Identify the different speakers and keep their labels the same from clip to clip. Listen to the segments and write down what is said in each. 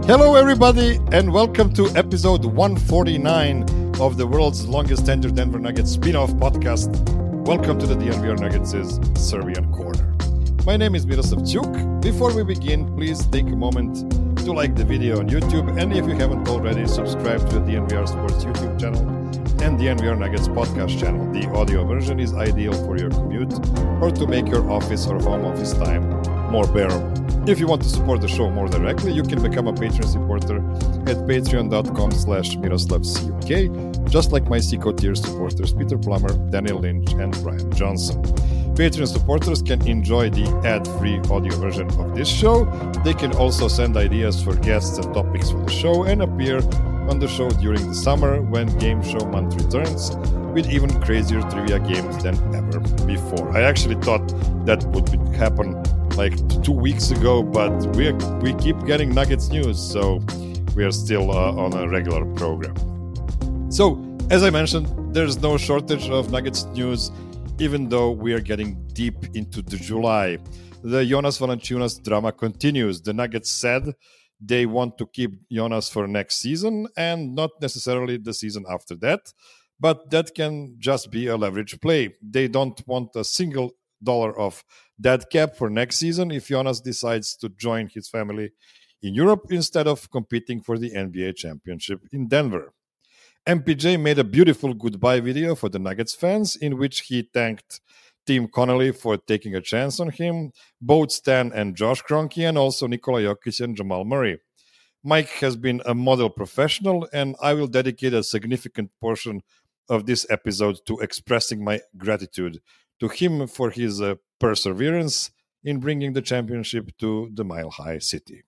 Speaker 1: Hello, everybody, and welcome to episode 149 of the world's longest tenured Denver Nuggets spin-off podcast. Welcome to the DNVR Nuggets' Serbian Corner. My name is Miroslav Ćuk. Before we begin, please take a moment to like the video on YouTube, and if you haven't already, subscribe to the DNVR Sports YouTube channel and DNVR Nuggets podcast channel. The audio version is ideal for your commute or to make your office or home office time more bearable. If you want to support the show more directly, you can become a Patreon supporter at patreon.com/MiroslavCuk, just like my Seco tier supporters Peter Plummer, Daniel Lynch, and Brian Johnson. Patreon supporters can enjoy the ad-free audio version of this show. They can also send ideas for guests and topics for the show and appear on the show during the summer when Game Show Month returns with even crazier trivia games than ever before. I actually thought that would happen like 2 weeks ago, but we keep getting Nuggets news, so we are still on a regular program. So, as I mentioned, there's no shortage of Nuggets news, even though we are getting deep into the July. The Jonas Valanciunas drama continues. The Nuggets said they want to keep Jonas for next season and not necessarily the season after that, but that can just be a leverage play. They don't want a single dollar of dead cap for next season if Jonas decides to join his family in Europe instead of competing for the NBA championship in Denver. MPJ made a beautiful goodbye video for the Nuggets fans in which he thanked Tim Connelly for taking a chance on him, both Stan and Josh Kroenke, and also Nikola Jokic and Jamal Murray. Mike has been a model professional, and I will dedicate a significant portion of this episode to expressing my gratitude to him for his perseverance in bringing the championship to the Mile High City.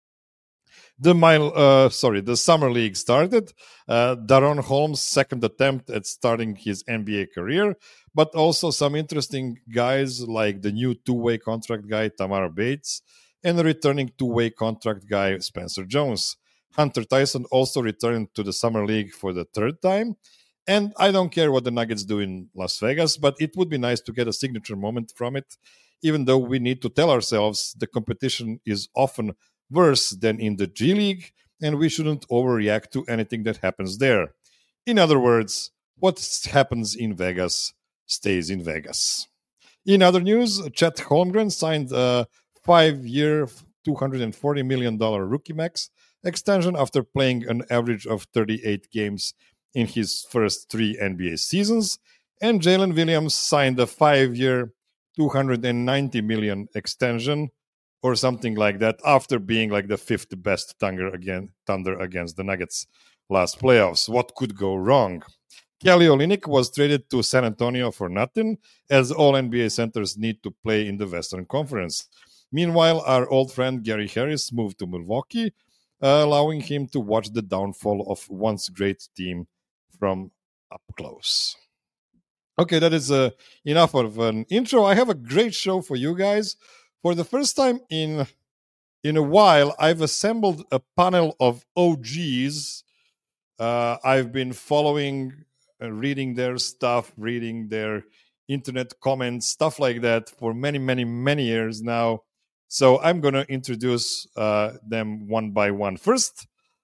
Speaker 1: The Summer League started. Daron Holmes' second attempt at starting his NBA career, but also some interesting guys like the new two-way contract guy, Tamar Bates, and the returning two-way contract guy, Spencer Jones. Hunter Tyson also returned to the Summer League for the third time. And I don't care what the Nuggets do in Las Vegas, but it would be nice to get a signature moment from it, even though we need to tell ourselves the competition is often worse than in the G League, and we shouldn't overreact to anything that happens there. In other words, what happens in Vegas stays in Vegas. In other news, Chet Holmgren signed a 5-year, $240 million rookie max extension after playing an average of 38 games in his first 3 NBA seasons, and Jalen Williams signed a 5-year, $290 million extension or something like that after being like the 5th best Thunder against the Nuggets last playoffs. What could go wrong? Kelly Olynyk was traded to San Antonio for nothing, as all NBA centers need to play in the Western Conference. Meanwhile, our old friend Gary Harris moved to Milwaukee, allowing him to watch the downfall of once great team from up close. Okay, that is enough of an intro. I have a great show for you guys. For the first time in a while, I've assembled a panel of OGs. I've been following, reading their stuff, reading their internet comments, stuff like that for many, many, many years now. So I'm going to introduce them one by one. First,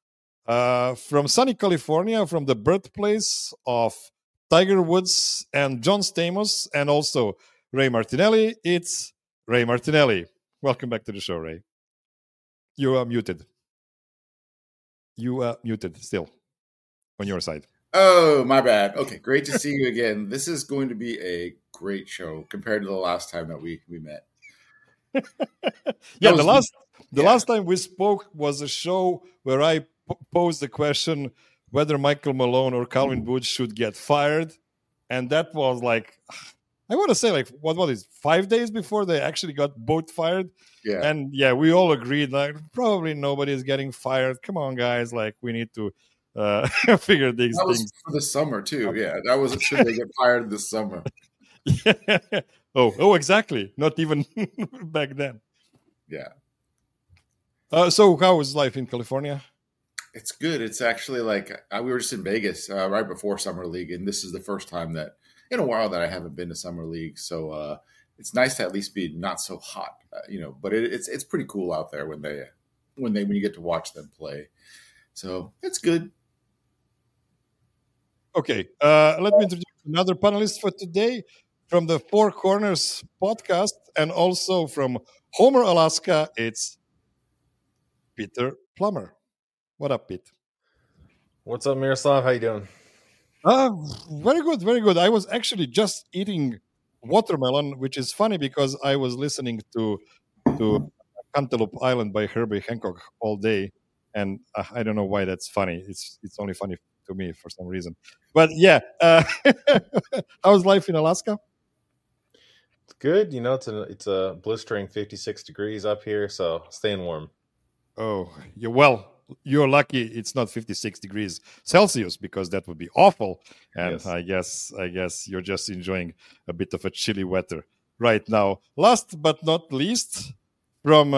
Speaker 1: from sunny California, from the birthplace of Tiger Woods and John Stamos, and also Ray Martinelli, it's Ray Martinelli. Welcome back to the show, Ray. You are muted. You are muted still on your side.
Speaker 2: Oh, my bad. Okay, great to see you again. This is going to be a great show compared to the last time that we met.
Speaker 1: Yeah, the last time we spoke was a show where I posed the question whether Michael Malone or Calvin Booth should get fired, and that was like, I want to say like what was it, 5 days before they actually got both fired.
Speaker 2: Yeah,
Speaker 1: and yeah, we all agreed like probably nobody is getting fired. Come on, guys, like we need to figure these
Speaker 2: that was
Speaker 1: things
Speaker 2: for the summer too. Yeah, that was should they get fired this summer?
Speaker 1: Yeah. Oh, exactly. Not even back then.
Speaker 2: Yeah.
Speaker 1: So how was life in California?
Speaker 2: It's good. It's actually like we were just in Vegas right before Summer League, and this is the first time that in a while that I haven't been to Summer League. So it's nice to at least be not so hot, but it's pretty cool out there when they when you get to watch them play. So it's good.
Speaker 1: Okay, let me introduce another panelist for today from the Four Corners podcast and also from Homer, Alaska. It's Peter Plummer. What up, Pete?
Speaker 3: What's up, Miroslav? How you doing?
Speaker 1: Very good, very good. I was actually just eating watermelon, which is funny because I was listening to Cantaloupe Island by Herbie Hancock all day, and I don't know why that's funny. It's only funny to me for some reason. But yeah, how's life in Alaska?
Speaker 3: It's good. You know, it's a blistering 56 degrees up here, so staying warm.
Speaker 1: Oh, you're lucky it's not 56 degrees Celsius because that would be awful. And
Speaker 3: Yes.
Speaker 1: I guess you're just enjoying a bit of a chilly weather right now. Last but not least, from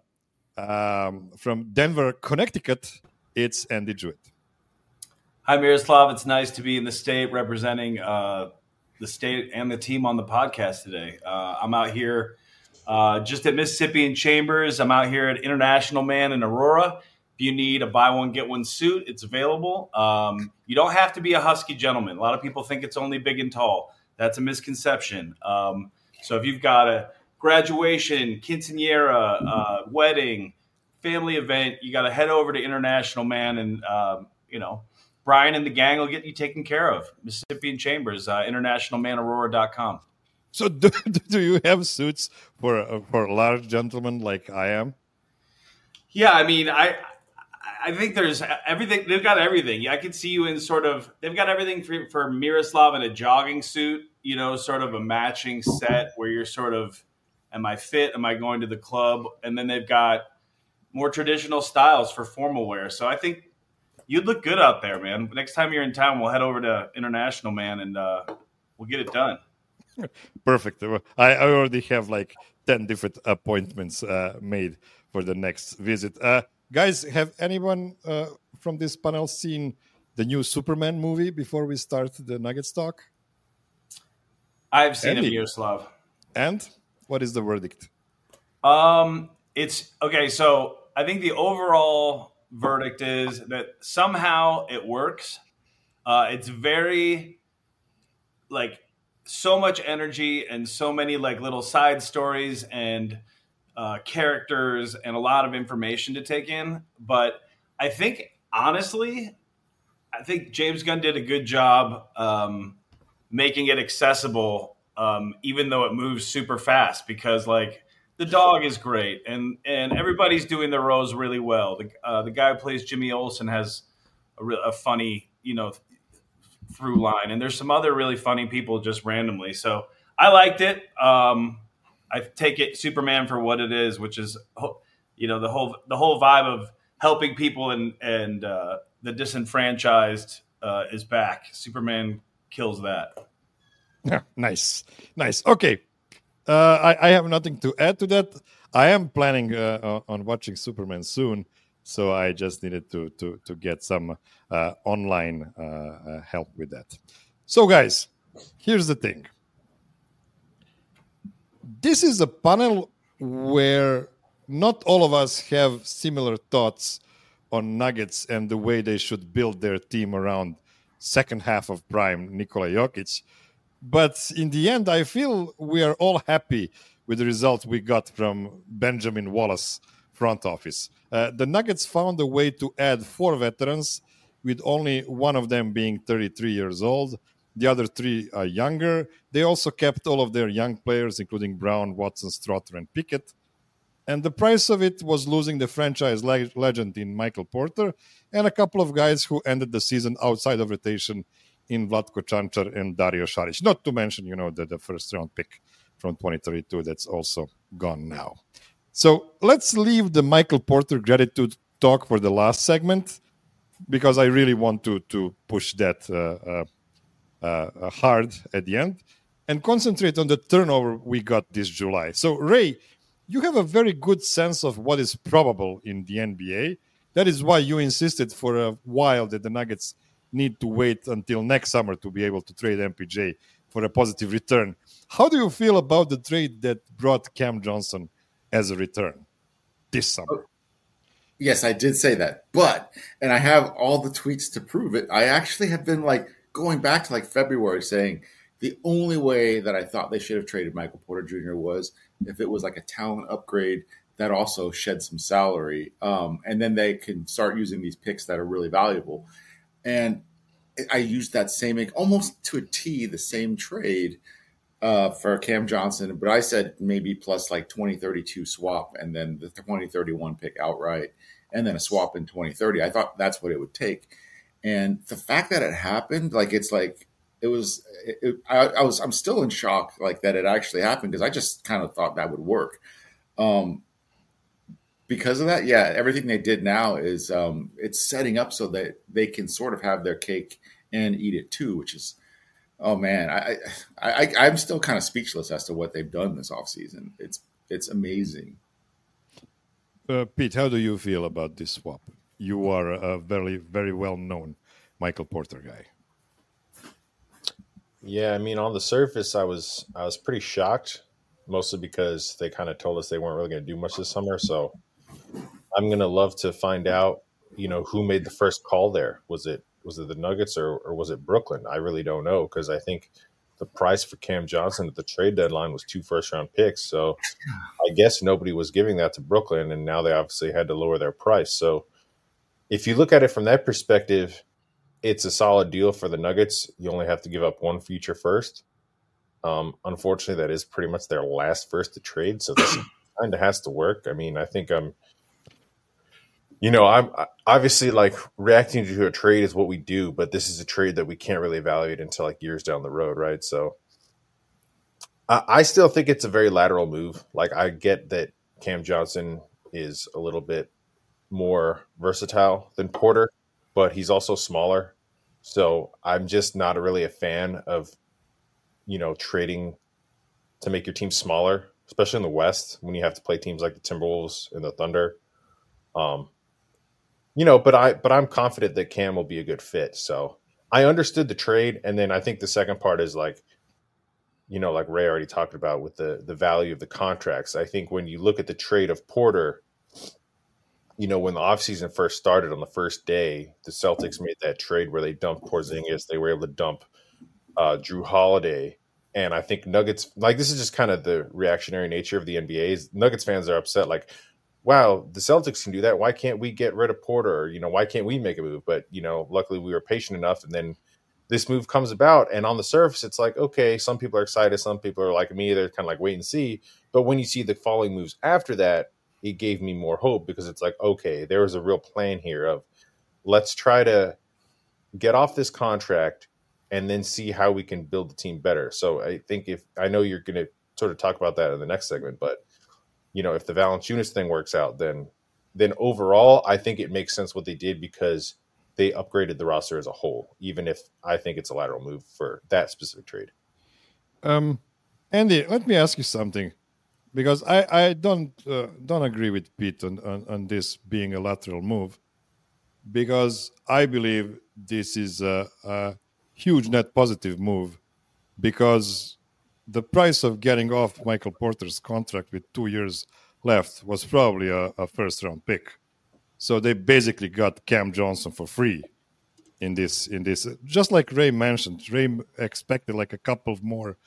Speaker 1: Denver, Connecticut, it's Andy Jewett.
Speaker 4: Hi, Miroslav. It's nice to be in the state representing the state and the team on the podcast today. I'm out here just at Mississippi and Chambers. I'm out here at International Man in Aurora. If you need a buy one, get one suit, it's available. You don't have to be a husky gentleman. A lot of people think it's only big and tall. That's a misconception. So if you've got a graduation, quinceanera, wedding, family event, you got to head over to International Man and, Brian and the gang will get you taken care of. Mississippi and Chambers, internationalmanaurora.com.
Speaker 1: So do you have suits for large gentlemen like I am?
Speaker 4: Yeah, I mean, I think there's everything. They've got everything. I could see you in they've got everything for Miroslav in a jogging suit, sort of a matching set where you're sort of, am I fit? Am I going to the club? And then they've got more traditional styles for formal wear. So I think you'd look good out there, man. Next time you're in town, we'll head over to International Man and we'll get it done.
Speaker 1: Perfect. I already have like 10 different appointments made for the next visit. Guys, have anyone from this panel seen the new Superman movie before we start the Nuggets talk?
Speaker 4: I've seen
Speaker 1: Andy.
Speaker 4: it, Miroslav.
Speaker 1: And what is the verdict?
Speaker 4: It's okay. So I think the overall verdict is that somehow it works. It's very so much energy and so many little side stories and characters and a lot of information to take in. But I think honestly, James Gunn did a good job making it accessible, even though it moves super fast because the dog is great, and everybody's doing their roles really well. The guy who plays Jimmy Olsen has a funny, through line, and there's some other really funny people just randomly. So I liked it. I take it Superman for what it is, which is the whole vibe of helping people and the disenfranchised is back. Superman kills that.
Speaker 1: Yeah, nice. Okay. I have nothing to add to that. I am planning on watching Superman soon, so I just needed to get some online help with that. So, guys, here's the thing. This is a panel where not all of us have similar thoughts on Nuggets and the way they should build their team around second half of prime Nikola Jokic. But in the end, I feel we are all happy with the result we got from Benjamin Wallace front office. The Nuggets found a way to add 4 veterans, with only one of them being 33 years old. The other 3 are younger. They also kept all of their young players, including Brown, Watson, Strother, and Pickett. And the price of it was losing the franchise legend in Michael Porter and a couple of guys who ended the season outside of rotation in Vlatko Čančar and Dario Šarić. Not to mention, the first round pick from 2032 that's also gone now. So let's leave the Michael Porter gratitude talk for the last segment because I really want to push that hard at the end and concentrate on the turnover we got this July. So, Ray, you have a very good sense of what is probable in the NBA. That is why you insisted for a while that the Nuggets need to wait until next summer to be able to trade MPJ for a positive return. How do you feel about the trade that brought Cam Johnson as a return this summer?
Speaker 2: Yes, I did say that. But, and I have all the tweets to prove it. I actually have been like going back to like February saying the only way that I thought they should have traded Michael Porter Jr. was if it was like a talent upgrade that also shed some salary. And then they can start using these picks that are really valuable. And I used that same, almost to a T, the same trade for Cam Johnson, but I said maybe plus like 2032 swap and then the 2031 pick outright and then a swap in 2030. I thought that's what it would take. And the fact that it happened, like, it's like, I'm still in shock, like, that it actually happened, because I just kind of thought that would work. Because of that, yeah, everything they did now is it's setting up so that they can sort of have their cake and eat it too, which is, oh man, I'm still kind of speechless as to what they've done this offseason. It's amazing.
Speaker 1: Pete, how do you feel about this swap? You are a very, very well-known Michael Porter guy.
Speaker 3: Yeah, I mean, on the surface, I was pretty shocked, mostly because they kind of told us they weren't really going to do much this summer. So I'm going to love to find out, who made the first call there. Was it the Nuggets or was it Brooklyn? I really don't know, because I think the price for Cam Johnson at the trade deadline was 2 first-round picks. So I guess nobody was giving that to Brooklyn, and now they obviously had to lower their price. So if you look at it from that perspective, it's a solid deal for the Nuggets. You only have to give up one future first. Unfortunately, that is pretty much their last first to trade, so this kind of has to work. I mean, I think I'm obviously, like, reacting to a trade is what we do, but this is a trade that we can't really evaluate until like years down the road, right? So I still think it's a very lateral move. Like, I get that Cam Johnson is a little bit more versatile than Porter, but he's also smaller. So I'm just not really a fan of, trading to make your team smaller, especially in the West when you have to play teams like the Timberwolves and the Thunder. But I'm confident that Cam will be a good fit. So I understood the trade. And then I think the second part is like Ray already talked about with the value of the contracts. I think when you look at the trade of Porter, when the offseason first started on the first day, the Celtics made that trade where they dumped Porzingis. They were able to dump Drew Holiday. And I think Nuggets, like, this is just kind of the reactionary nature of the NBA. Nuggets fans are upset, like, wow, the Celtics can do that. Why can't we get rid of Porter? Or, why can't we make a move? But, luckily we were patient enough. And then this move comes about. And on the surface, it's like, okay, some people are excited. Some people are like me. They're kind of like, wait and see. But when you see the following moves after that, it gave me more hope, because it's like, okay, there was a real plan here of, let's try to get off this contract and then see how we can build the team better. So I think I know you're going to sort of talk about that in the next segment, but if the Valanciunas thing works out, then overall, I think it makes sense what they did, because they upgraded the roster as a whole, even if I think it's a lateral move for that specific trade.
Speaker 1: Andy, let me ask you something, because I don't agree with Pete on this being a lateral move, because I believe this is a huge net positive move, because the price of getting off Michael Porter's contract with 2 years left was probably a first-round pick. So they basically got Cam Johnson for free in this. Just like Ray mentioned, Ray expected like a couple of more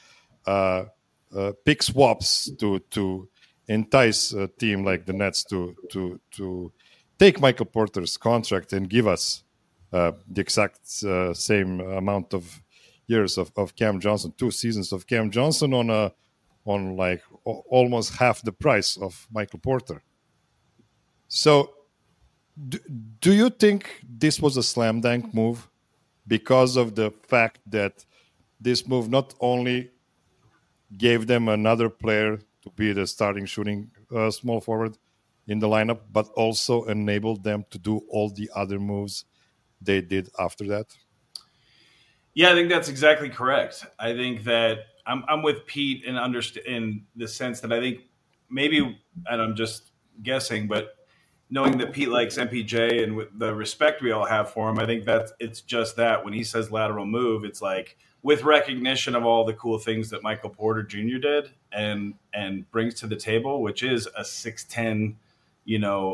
Speaker 1: pick swaps to entice a team like the Nets to take Michael Porter's contract and give us the exact same amount of years of Cam Johnson, 2 seasons of Cam Johnson on like almost half the price of Michael Porter. So do you think this was a slam dunk move because of the fact that this move not only gave them another player to be the starting shooting small forward in the lineup, but also enabled them to do all the other moves they did after that?
Speaker 4: Yeah, I think that's exactly correct. I think that I'm with Pete in the sense that I think maybe, and I'm just guessing, but knowing that Pete likes MPJ and with the respect we all have for him, I think that it's just that when he says lateral move, it's like with recognition of all the cool things that Michael Porter Jr. did and brings to the table, which is a 6'10",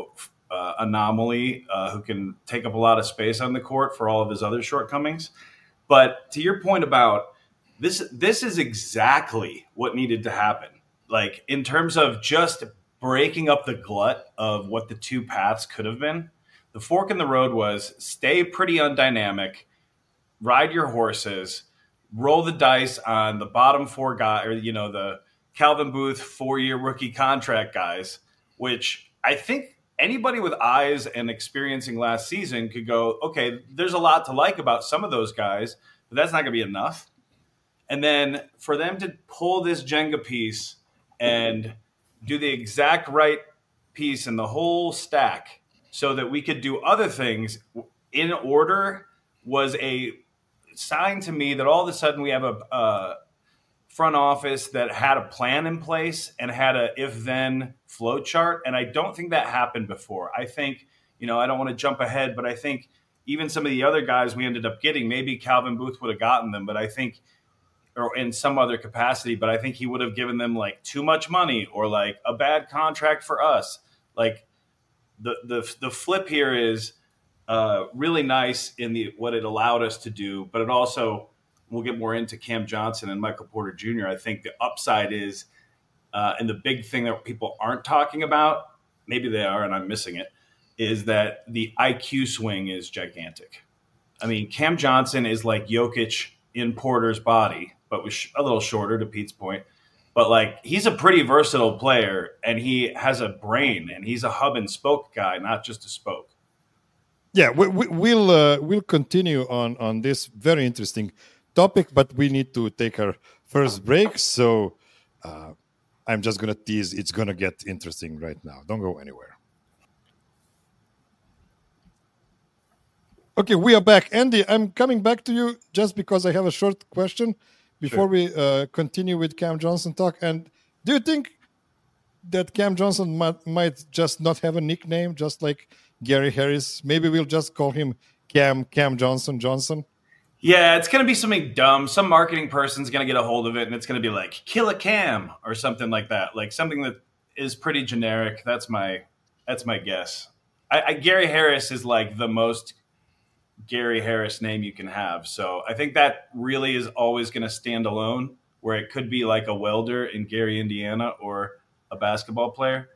Speaker 4: anomaly who can take up a lot of space on the court for all of his other shortcomings. But to your point about this is exactly what needed to happen. Like in terms of just breaking up the glut of what the two paths could have been, the fork in the road was stay pretty undynamic, ride your horses, roll the dice on the bottom four guys, or, the Calvin Booth 4-year rookie contract guys, which I think anybody with eyes and experiencing last season could go, okay, there's a lot to like about some of those guys, but that's not going to be enough. And then for them to pull this Jenga piece and do the exact right piece in the whole stack so that we could do other things in order was a sign to me that all of a sudden we have a front office that had a plan in place and had a if-then flow chart. And I don't think that happened before. I think, I don't want to jump ahead, but I think even some of the other guys we ended up getting, maybe Calvin Booth would have gotten them, but I think, or in some other capacity, but I think he would have given them like too much money or like a bad contract for us. Like the flip here is really nice in what it allowed us to do, but it also, we'll get more into Cam Johnson and Michael Porter Jr. I think the upside is, and the big thing that people aren't talking about, maybe they are and I'm missing it, is that the IQ swing is gigantic. I mean, Cam Johnson is like Jokic in Porter's body, but was a little shorter, to Pete's point. But like, he's a pretty versatile player, and he has a brain, and he's a hub and spoke guy, not just a spoke.
Speaker 1: Yeah, we'll continue on this very interesting topic, but we need to take our first break. So I'm just gonna tease. It's gonna get interesting right now. Don't go anywhere. Okay, we are back. Andy, I'm coming back to you just because I have a short question before we continue with Cam Johnson talk. And do you think that Cam Johnson might just not have a nickname, just like Gary Harris? Maybe we'll just call him Cam Johnson?
Speaker 4: Yeah, it's going to be something dumb. Some marketing person's going to get a hold of it, and it's going to be like, kill a Cam or something like that. Like something that is pretty generic. That's my guess. Gary Harris is like the most Gary Harris name you can have. So I think that really is always going to stand alone, where it could be like a welder in Gary, Indiana, or a basketball player.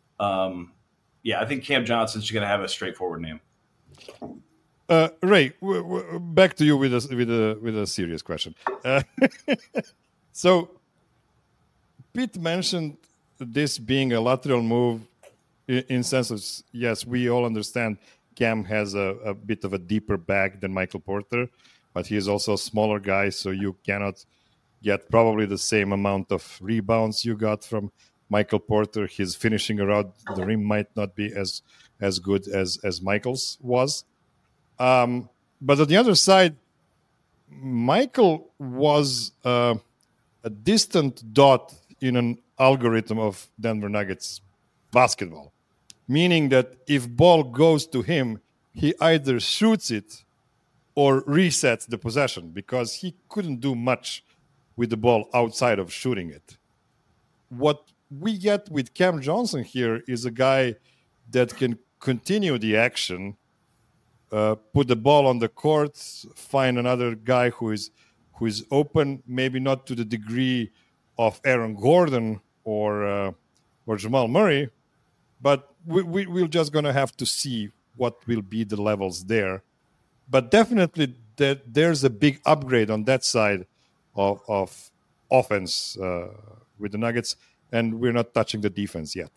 Speaker 4: I think Cam Johnson's going to have a straightforward name.
Speaker 1: Ray, back to you with a serious question. So Pete mentioned this being a lateral move in sense of, yes, we all understand Cam has a bit of a deeper bag than Michael Porter, but he is also a smaller guy, so you cannot get probably the same amount of rebounds you got from Michael Porter. His finishing around the rim might not be as good as Michael's was. But on the other side, Michael was a distant dot in an algorithm of Denver Nuggets basketball, meaning that if ball goes to him, he either shoots it or resets the possession, because he couldn't do much with the ball outside of shooting it. What we get with Cam Johnson here is a guy that can continue the action, put the ball on the court, find another guy who is open, maybe not to the degree of Aaron Gordon or Jamal Murray, but we're just going to have to see what will be the levels there. But definitely there's a big upgrade on that side of offense with the Nuggets, and we're not touching the defense yet.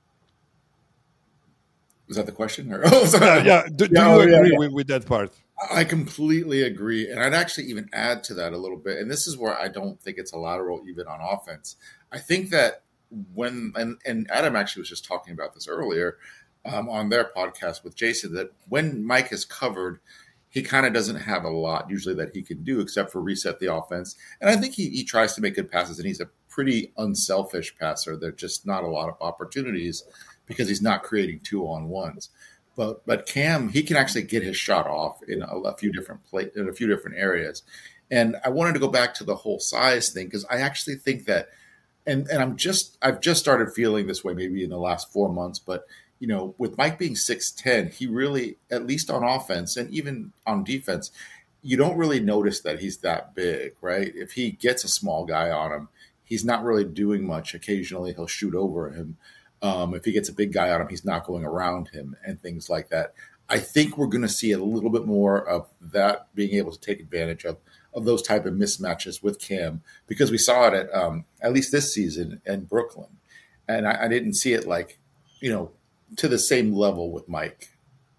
Speaker 2: Was that the question? Or,
Speaker 1: Do you agree with that part?
Speaker 2: I completely agree. And I'd actually even add to that a little bit. And this is where I don't think it's a lateral even on offense. I think that and Adam actually was just talking about this earlier on their podcast with Jason, that when Mike is covered, he kind of doesn't have a lot usually that he can do except for reset the offense. And I think he tries to make good passes, and he's a pretty unselfish passer. There's just not a lot of opportunities because he's not creating 2-on-1s. But Cam, he can actually get his shot off in a few different areas. And I wanted to go back to the whole size thing, because I actually think that, and I've just started feeling this way maybe in the last 4 months, but with Mike being 6'10", he really, at least on offense and even on defense, you don't really notice that he's that big, right? If he gets a small guy on him, he's not really doing much. Occasionally, he'll shoot over him. If he gets a big guy on him, he's not going around him and things like that. I think we're going to see a little bit more of that, being able to take advantage of those type of mismatches with Cam, because we saw it at least this season in Brooklyn. And I didn't see it to the same level with Mike.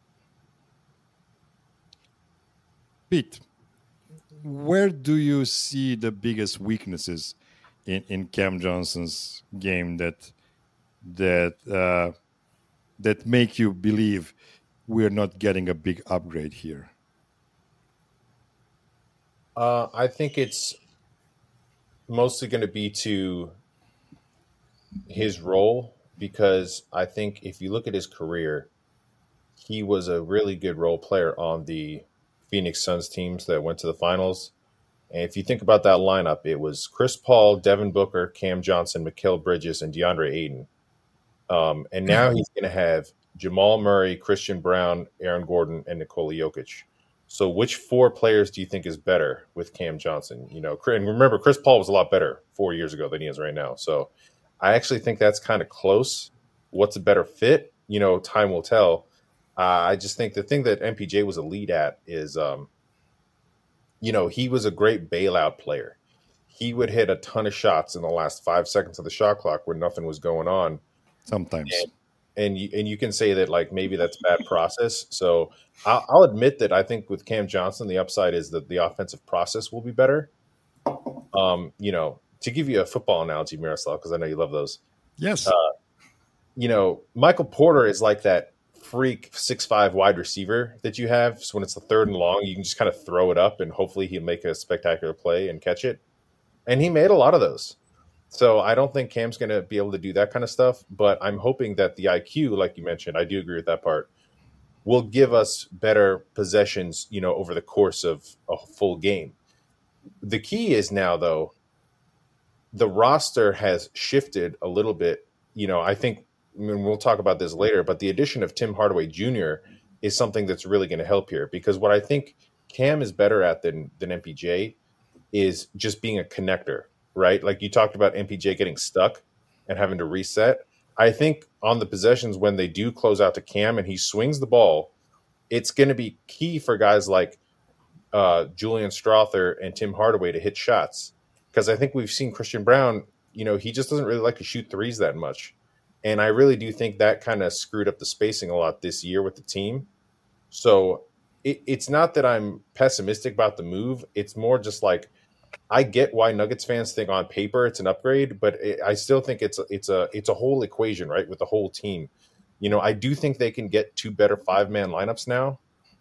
Speaker 1: Pete, where do you see the biggest weaknesses in Cam Johnson's game that make you believe we're not getting a big upgrade here?
Speaker 3: I think it's mostly going to be to his role, because I think if you look at his career, he was a really good role player on the Phoenix Suns teams that went to the finals. And if you think about that lineup, it was Chris Paul, Devin Booker, Cam Johnson, Mikal Bridges, and DeAndre Ayton. And now he's going to have Jamal Murray, Christian Brown, Aaron Gordon, and Nikola Jokic. So which four players do you think is better with Cam Johnson? And remember, Chris Paul was a lot better 4 years ago than he is right now. So I actually think that's kind of close. What's a better fit? Time will tell. I just think the thing that MPJ was a lead at is, he was a great bailout player. He would hit a ton of shots in the last 5 seconds of the shot clock when nothing was going on.
Speaker 1: Sometimes.
Speaker 3: And you can say that, like, maybe that's bad process. So I'll admit that I think with Cam Johnson, the upside is that the offensive process will be better. To give you a football analogy, Miroslav, because I know you love those.
Speaker 1: Yes.
Speaker 3: Michael Porter is like that freak 6'5" wide receiver that you have. So when it's the 3rd and long, you can just kind of throw it up and hopefully he'll make a spectacular play and catch it. And he made a lot of those. So I don't think Cam's going to be able to do that kind of stuff, but I'm hoping that the IQ, like you mentioned, I do agree with that part, will give us better possessions, over the course of a full game. The key is now, though, the roster has shifted a little bit. I think, we'll talk about this later, but the addition of Tim Hardaway Jr. is something that's really going to help here, because what I think Cam is better at than MPJ is just being a connector, right? Like you talked about MPJ getting stuck and having to reset. I think on the possessions when they do close out to Cam and he swings the ball, it's going to be key for guys like Julian Strawther and Tim Hardaway to hit shots. Because I think we've seen Christian Brown, he just doesn't really like to shoot threes that much. And I really do think that kind of screwed up the spacing a lot this year with the team. So it's not that I'm pessimistic about the move. It's more just like, I get why Nuggets fans think on paper it's an upgrade, but I still think it's a whole equation, right, with the whole team. I do think they can get 2 better 5-man lineups now.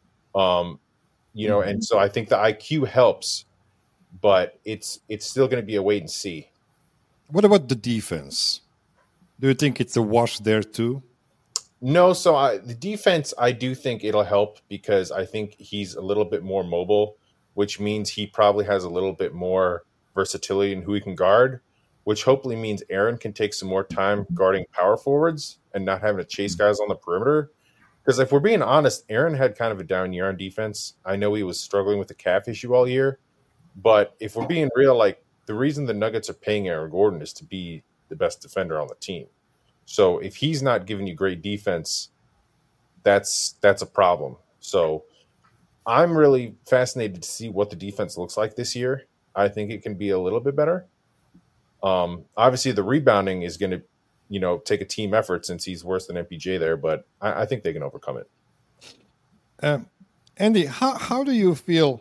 Speaker 3: And so I think the IQ helps, but it's still going to be a wait and see.
Speaker 1: What about the defense? Do you think it's a wash there too?
Speaker 3: No, so the defense, I do think it'll help, because I think he's a little bit more mobile, which means he probably has a little bit more versatility in who he can guard, which hopefully means Aaron can take some more time guarding power forwards and not having to chase guys on the perimeter. Because if we're being honest, Aaron had kind of a down year on defense. I know he was struggling with the calf issue all year, but if we're being real, like, the reason the Nuggets are paying Aaron Gordon is to be the best defender on the team. So if he's not giving you great defense, that's a problem. So I'm really fascinated to see what the defense looks like this year. I think it can be a little bit better. Obviously, the rebounding is going to, take a team effort, since he's worse than MPJ there, but I think they can overcome it.
Speaker 1: Andy, how do you feel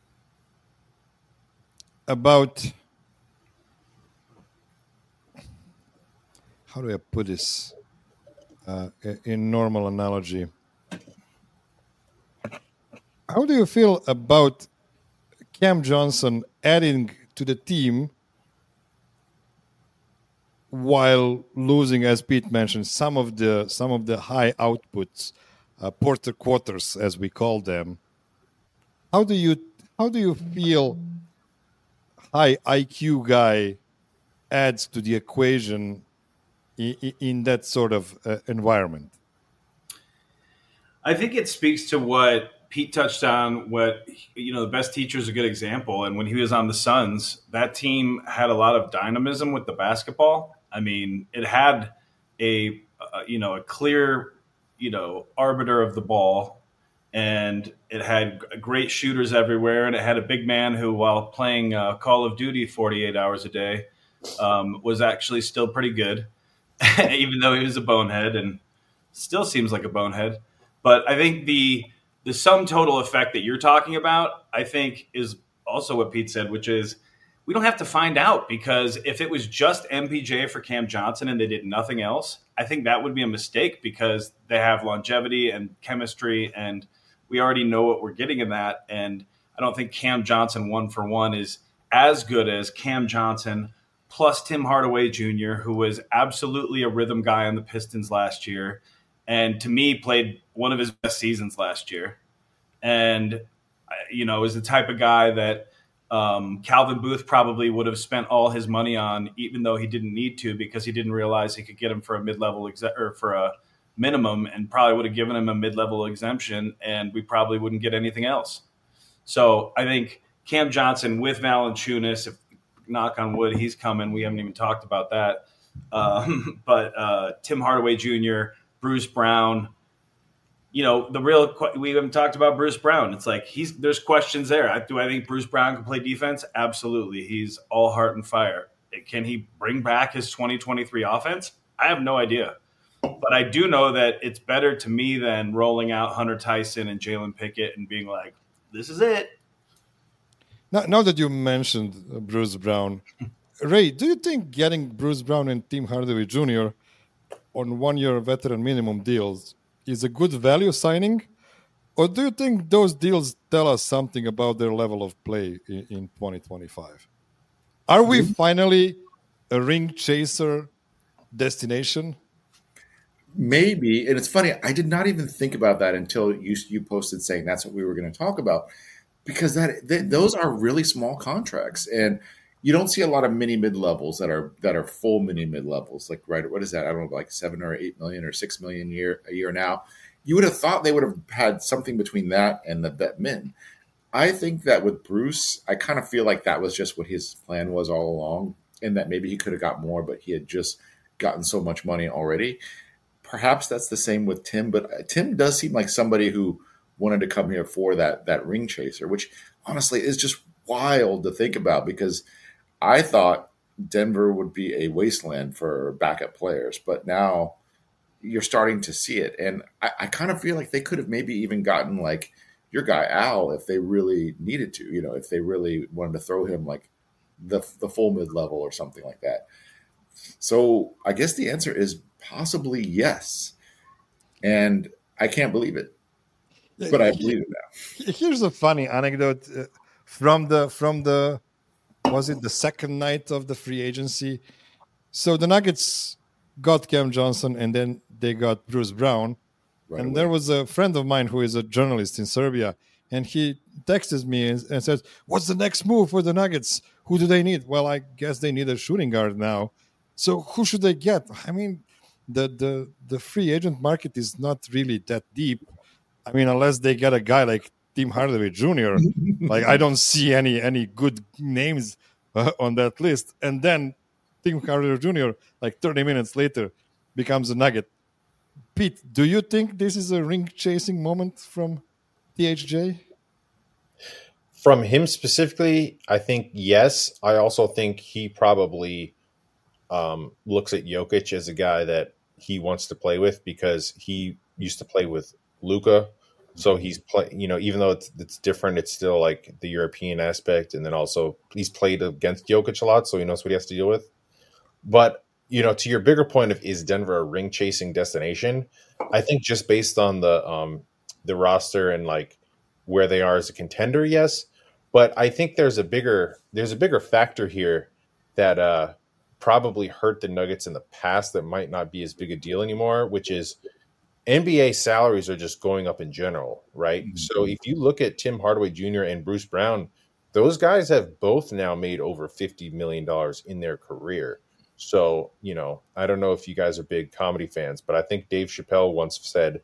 Speaker 1: about, how do I put this in normal analogy? How do you feel about Cam Johnson adding to the team while losing, as Pete mentioned, some of the high outputs, Porter quarters, as we call them? How do you feel high IQ guy adds to the equation in that sort of environment?
Speaker 4: I think it speaks to what Pete touched on. The best teacher is a good example. And when he was on the Suns, that team had a lot of dynamism with the basketball. I mean, it had a clear, arbiter of the ball, and it had great shooters everywhere. And it had a big man who, while playing Call of Duty 48 hours a day, was actually still pretty good, even though he was a bonehead and still seems like a bonehead. But I think the sum total effect that you're talking about, I think, is also what Pete said, which is we don't have to find out, because if it was just MPJ for Cam Johnson and they did nothing else, I think that would be a mistake, because they have longevity and chemistry, and we already know what we're getting in that. And I don't think Cam Johnson 1-for-1 is as good as Cam Johnson plus Tim Hardaway Jr., who was absolutely a rhythm guy on the Pistons last year, and to me played one of his best seasons last year. And, is the type of guy that Calvin Booth probably would have spent all his money on, even though he didn't need to, because he didn't realize he could get him for a mid-level or for a minimum, and probably would have given him a mid-level exemption, and we probably wouldn't get anything else. So I think Cam Johnson with Valanciunas, if knock on wood, he's coming. We haven't even talked about that. But Tim Hardaway Jr., Bruce Brown, we haven't talked about Bruce Brown. It's like there's questions there. Do I think Bruce Brown can play defense? Absolutely. He's all heart and fire. Can he bring back his 2023 offense? I have no idea. But I do know that it's better to me than rolling out Hunter Tyson and Jalen Pickett and being like, this is it.
Speaker 1: Now that you mentioned Bruce Brown, Ray, do you think getting Bruce Brown and Tim Hardaway Jr. on 1-year veteran minimum deals is a good value signing? Or do you think those deals tell us something about their level of play in 2025? Are we finally a ring chaser destination?
Speaker 2: Maybe. And it's funny, I did not even think about that until you posted saying that's what we were going to talk about, because those are really small contracts, and you don't see a lot of mini mid levels that are full mini mid levels. Like, right, what is that? I don't know, like 7 or 8 million or 6 million a year now. You would have thought they would have had something between that and the vet min. I think that with Bruce, I kind of feel like that was just what his plan was all along, and that maybe he could have got more, but he had just gotten so much money already. Perhaps that's the same with Tim, but Tim does seem like somebody who wanted to come here for that ring chaser, which honestly is just wild to think about, because I thought Denver would be a wasteland for backup players, but now you're starting to see it. And I kind of feel like they could have maybe even gotten like your guy Al if they really needed to, if they really wanted to throw him like the full mid-level or something like that. So I guess the answer is possibly yes. And I can't believe it, but I believe it now.
Speaker 1: Here's a funny anecdote from the was it the second night of the free agency? So the Nuggets got Cam Johnson, and then they got Bruce Brown. Right and away. There was a friend of mine who is a journalist in Serbia, and he texted me and says, "What's the next move for the Nuggets? Who do they need?" Well, I guess they need a shooting guard now. So who should they get? I mean, the free agent market is not really that deep. I mean, unless they get a guy like Tim Hardaway Jr., like I don't see any good names on that list. And then Tim Hardaway Jr., like 30 minutes later, becomes a Nugget. Pete, do you think this is a ring-chasing moment from THJ?
Speaker 3: From him specifically, I think yes. I also think he probably looks at Jokic as a guy that he wants to play with, because he used to play with Luka. So he's even though it's different, it's still like the European aspect. And then also he's played against Jokic a lot, so he knows what he has to deal with. But, to your bigger point of is Denver a ring chasing destination? I think just based on the roster and like where they are as a contender, yes. But I think there's a bigger factor here that probably hurt the Nuggets in the past that might not be as big a deal anymore, which is NBA salaries are just going up in general, right? Mm-hmm. So if you look at Tim Hardaway Jr. and Bruce Brown, those guys have both now made over $50 million in their career. So, I don't know if you guys are big comedy fans, but I think Dave Chappelle once said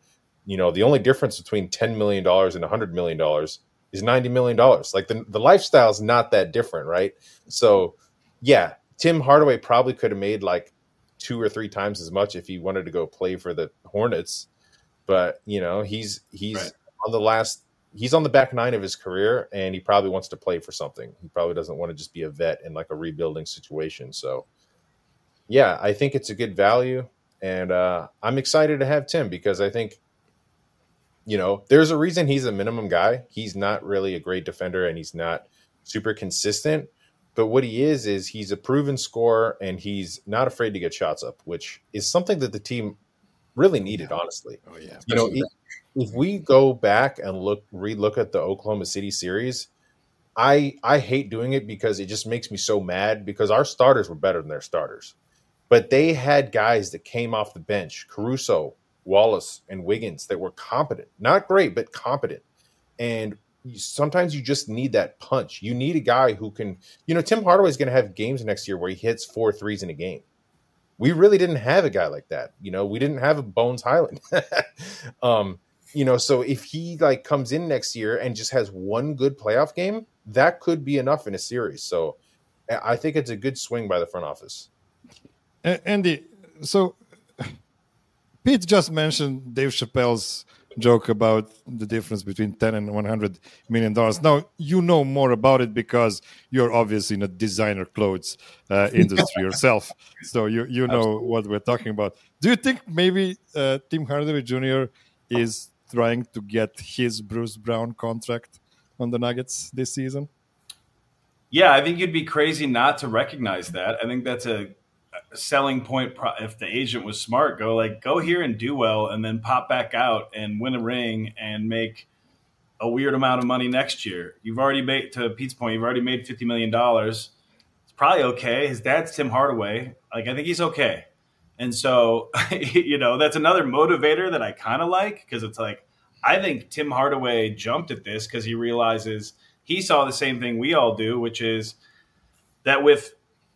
Speaker 3: The only difference between $10 million and $100 million is $90 million. Like the lifestyle is not that different, right? So yeah, Tim Hardaway probably could have made like 2 or 3 times as much if he wanted to go play for the Hornets. But he's
Speaker 4: Right.
Speaker 3: he's on the back 9 of his career, and he probably wants to play for something. He probably doesn't want to just be a vet in like a rebuilding situation. So yeah, I think it's a good value, and I'm excited to have Tim because I think there's a reason he's a minimum guy. He's not really a great defender, and he's not super consistent. But what he is he's a proven scorer, and he's not afraid to get shots up, which is something that the team really needed, honestly.
Speaker 1: Oh yeah.
Speaker 3: If we go back and relook at the Oklahoma City series, I hate doing it because it just makes me so mad because our starters were better than their starters. But they had guys that came off the bench, Caruso, Wallace, and Wiggins, that were competent. Not great, but competent. And sometimes you just need that punch. You need a guy who can, Tim Hardaway is going to have games next year where he hits 4 threes in a game. We really didn't have a guy like that. We didn't have a Bones Highland. So if he like comes in next year and just has one good playoff game, that could be enough in a series. So I think it's a good swing by the front office.
Speaker 1: Andy, so Pete just mentioned Dave Chappelle's joke about the difference between $10 and $100 million. Now, you know more about it because you're obviously in a designer clothes industry yourself. So you know what we're talking about. Do you think maybe Tim Hardaway Jr. is trying to get his Bruce Brown contract on the Nuggets this season?
Speaker 4: Yeah, I think you'd be crazy not to recognize that. I think that's a selling point. If the agent was smart, go here and do well, and then pop back out and win a ring and make a weird amount of money next year. You've already made, to Pete's point, you've already made $50 million. It's probably okay. His dad's Tim Hardaway. I think he's okay. And so, that's another motivator that I kind of like, because it's like, I think Tim Hardaway jumped at this because he realizes he saw the same thing we all do, which is that with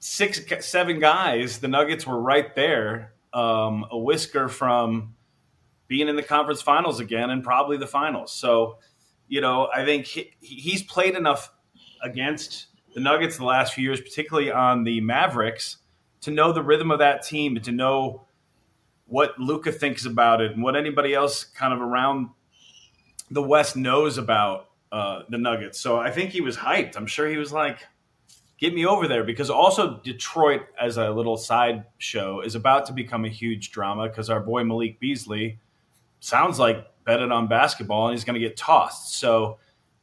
Speaker 4: 6-7 guys, the Nuggets were right there, a whisker from being in the conference finals again and probably the finals. So, I think he's played enough against the Nuggets the last few years, particularly on the Mavericks, to know the rhythm of that team and to know what Luka thinks about it and what anybody else kind of around the West knows about the Nuggets. So I think he was hyped. I'm sure he was like, get me over there, because also Detroit, as a little side show, is about to become a huge drama because our boy Malik Beasley sounds like betted on basketball and he's going to get tossed. So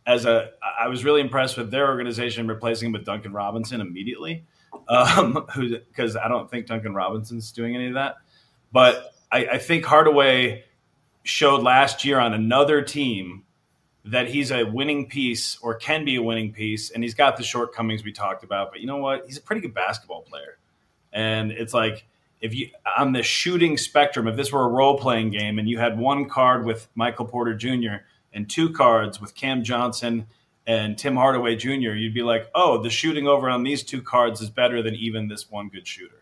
Speaker 4: I was really impressed with their organization replacing him with Duncan Robinson immediately, because I don't think Duncan Robinson's doing any of that. But I think Hardaway showed last year on another team that he's a winning piece, or can be a winning piece, and he's got the shortcomings we talked about. But you know what? He's a pretty good basketball player. And it's like, if you on the shooting spectrum, if this were a role-playing game and you had one card with Michael Porter Jr. and 2 cards with Cam Johnson and Tim Hardaway Jr., you'd be like, oh, the shooting over on these 2 cards is better than even this one good shooter.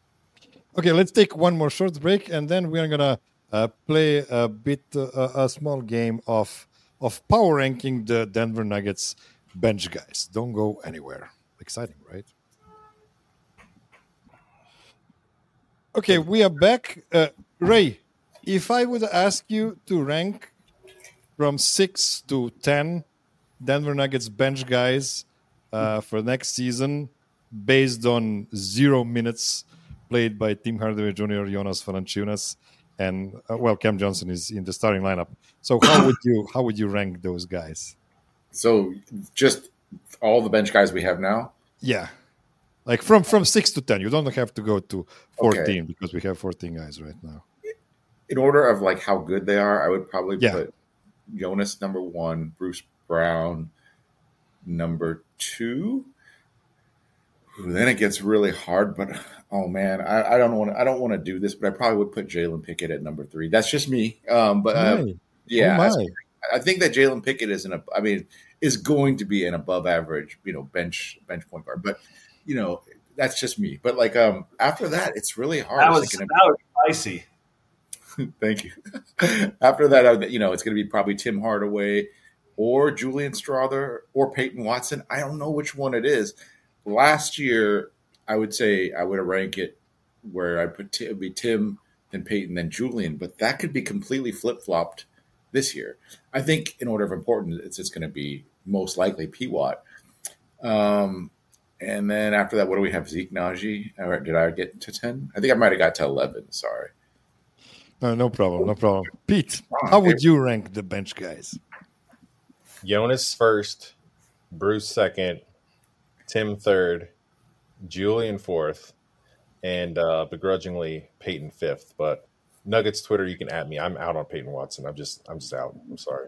Speaker 1: Okay, let's take one more short break, and then we're going to play a small game of power ranking the Denver Nuggets bench guys. Don't go anywhere. Exciting, right? Okay, we are back. Ray, if I would ask you to rank from 6 to 10 Denver Nuggets bench guys for next season based on 0 minutes played by Tim Hardaway Jr., Jonas Valanciunas, and Cam Johnson is in the starting lineup. So how would you rank those guys?
Speaker 2: So just all the bench guys we have now?
Speaker 1: Yeah. Like from 6 to 10. You don't have to go to 14 because we have 14 guys right now.
Speaker 2: In order of like how good they are, I would probably put Jonas number 1, Bruce Brown number 2. Then it gets really hard, but oh man, I don't want to do this, but I probably would put Jalen Pickett at number 3. That's just me. Yeah, I think that Jalen Pickett is going to be an above average, bench point guard. But that's just me. But like after that, it's really hard.
Speaker 4: That was spicy.
Speaker 2: Thank you. After that, it's going to be probably Tim Hardaway or Julian Strother or Peyton Watson. I don't know which one it is. Last year, I would say I would rank it where I put it would be Tim, then Peyton, then Julian, but that could be completely flip flopped this year. I think in order of importance, it's just going to be most likely P Watt. And then after that, what do we have? Zeke Najee? Or did I get to 10? I think I might have got to 11. Sorry.
Speaker 1: No problem. No problem. Pete, how would you rank the bench guys?
Speaker 3: Jonas first, Bruce second, Tim third, Julian fourth, and begrudgingly Peyton fifth. But Nuggets Twitter, you can at me. I'm out on Peyton Watson. I'm just out. I'm sorry.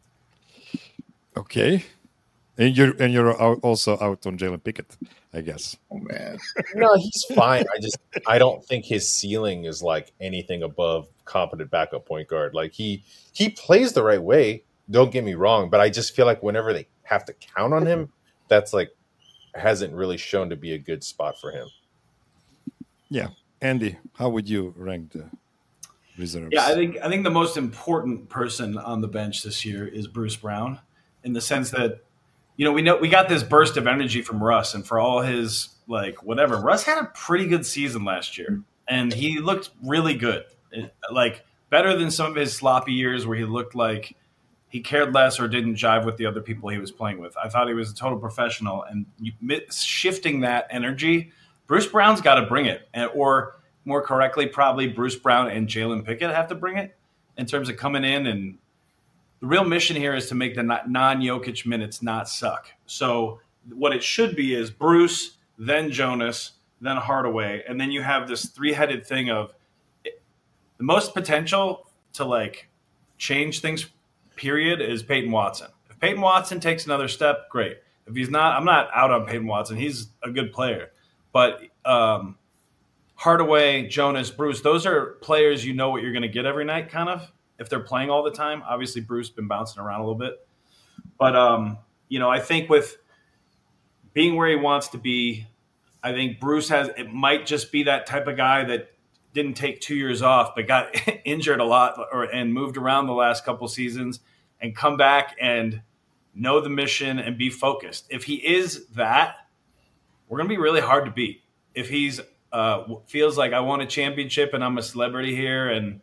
Speaker 1: Okay. And you're also out on Jalen Pickett, I guess.
Speaker 2: Oh man.
Speaker 3: No, he's fine. I don't think his ceiling is like anything above competent backup point guard. Like he plays the right way. Don't get me wrong, but I just feel like whenever they have to count on him, that's like hasn't really shown to be a good spot for him.
Speaker 1: Yeah. Andy, how would you rank the reserves?
Speaker 4: Yeah, I think the most important person on the bench this year is Bruce Brown, in the sense that, we got this burst of energy from Russ, and for all his whatever, Russ had a pretty good season last year, and he looked really good, better than some of his sloppy years where he looked like he cared less or didn't jive with the other people he was playing with. I thought he was a total professional, and shifting that energy, Bruce Brown's got to bring it, or more correctly, probably Bruce Brown and Jalen Pickett have to bring it in terms of coming in. And the real mission here is to make the non-Jokic minutes not suck. So what it should be is Bruce, then Jonas, then Hardaway, and then you have this three-headed thing of the most potential to change things, period, is Peyton Watson. If Peyton Watson takes another step, great. If he's not, I'm not out on Peyton Watson. He's a good player. But Hardaway, Jonas, Bruce, those are players you know what you're going to get every night, kind of, if they're playing all the time. Obviously, Bruce been bouncing around a little bit. But, I think with being where he wants to be, I think Bruce it might just be that type of guy that didn't take 2 years off, but got injured a lot and moved around the last couple seasons and come back and know the mission and be focused. If he is that, we're going to be really hard to beat. If he's feels like I won a championship and I'm a celebrity here and,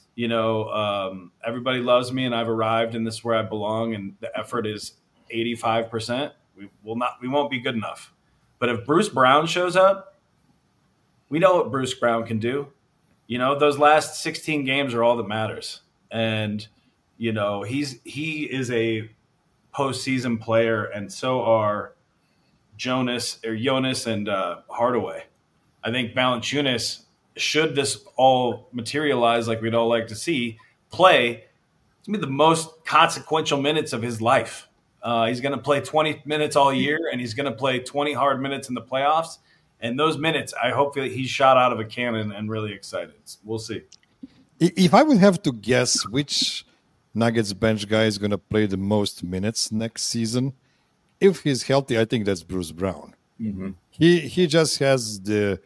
Speaker 4: everybody loves me and I've arrived and this is where I belong and the effort is 85%, we won't be good enough. But if Bruce Brown shows up, we know what Bruce Brown can do. Those last 16 games are all that matters. And, he is a postseason player, and so are Jonas and Hardaway. I think Valanciunas, should this all materialize like we'd all like to see, play, it's going to be the most consequential minutes of his life. He's going to play 20 minutes all year, and he's going to play 20 hard minutes in the playoffs. And those minutes, I hope that he's shot out of a cannon and really excited. We'll see.
Speaker 1: If I would have to guess which Nuggets bench guy is going to play the most minutes next season, if he's healthy, I think that's Bruce Brown.
Speaker 2: Mm-hmm.
Speaker 1: He just has the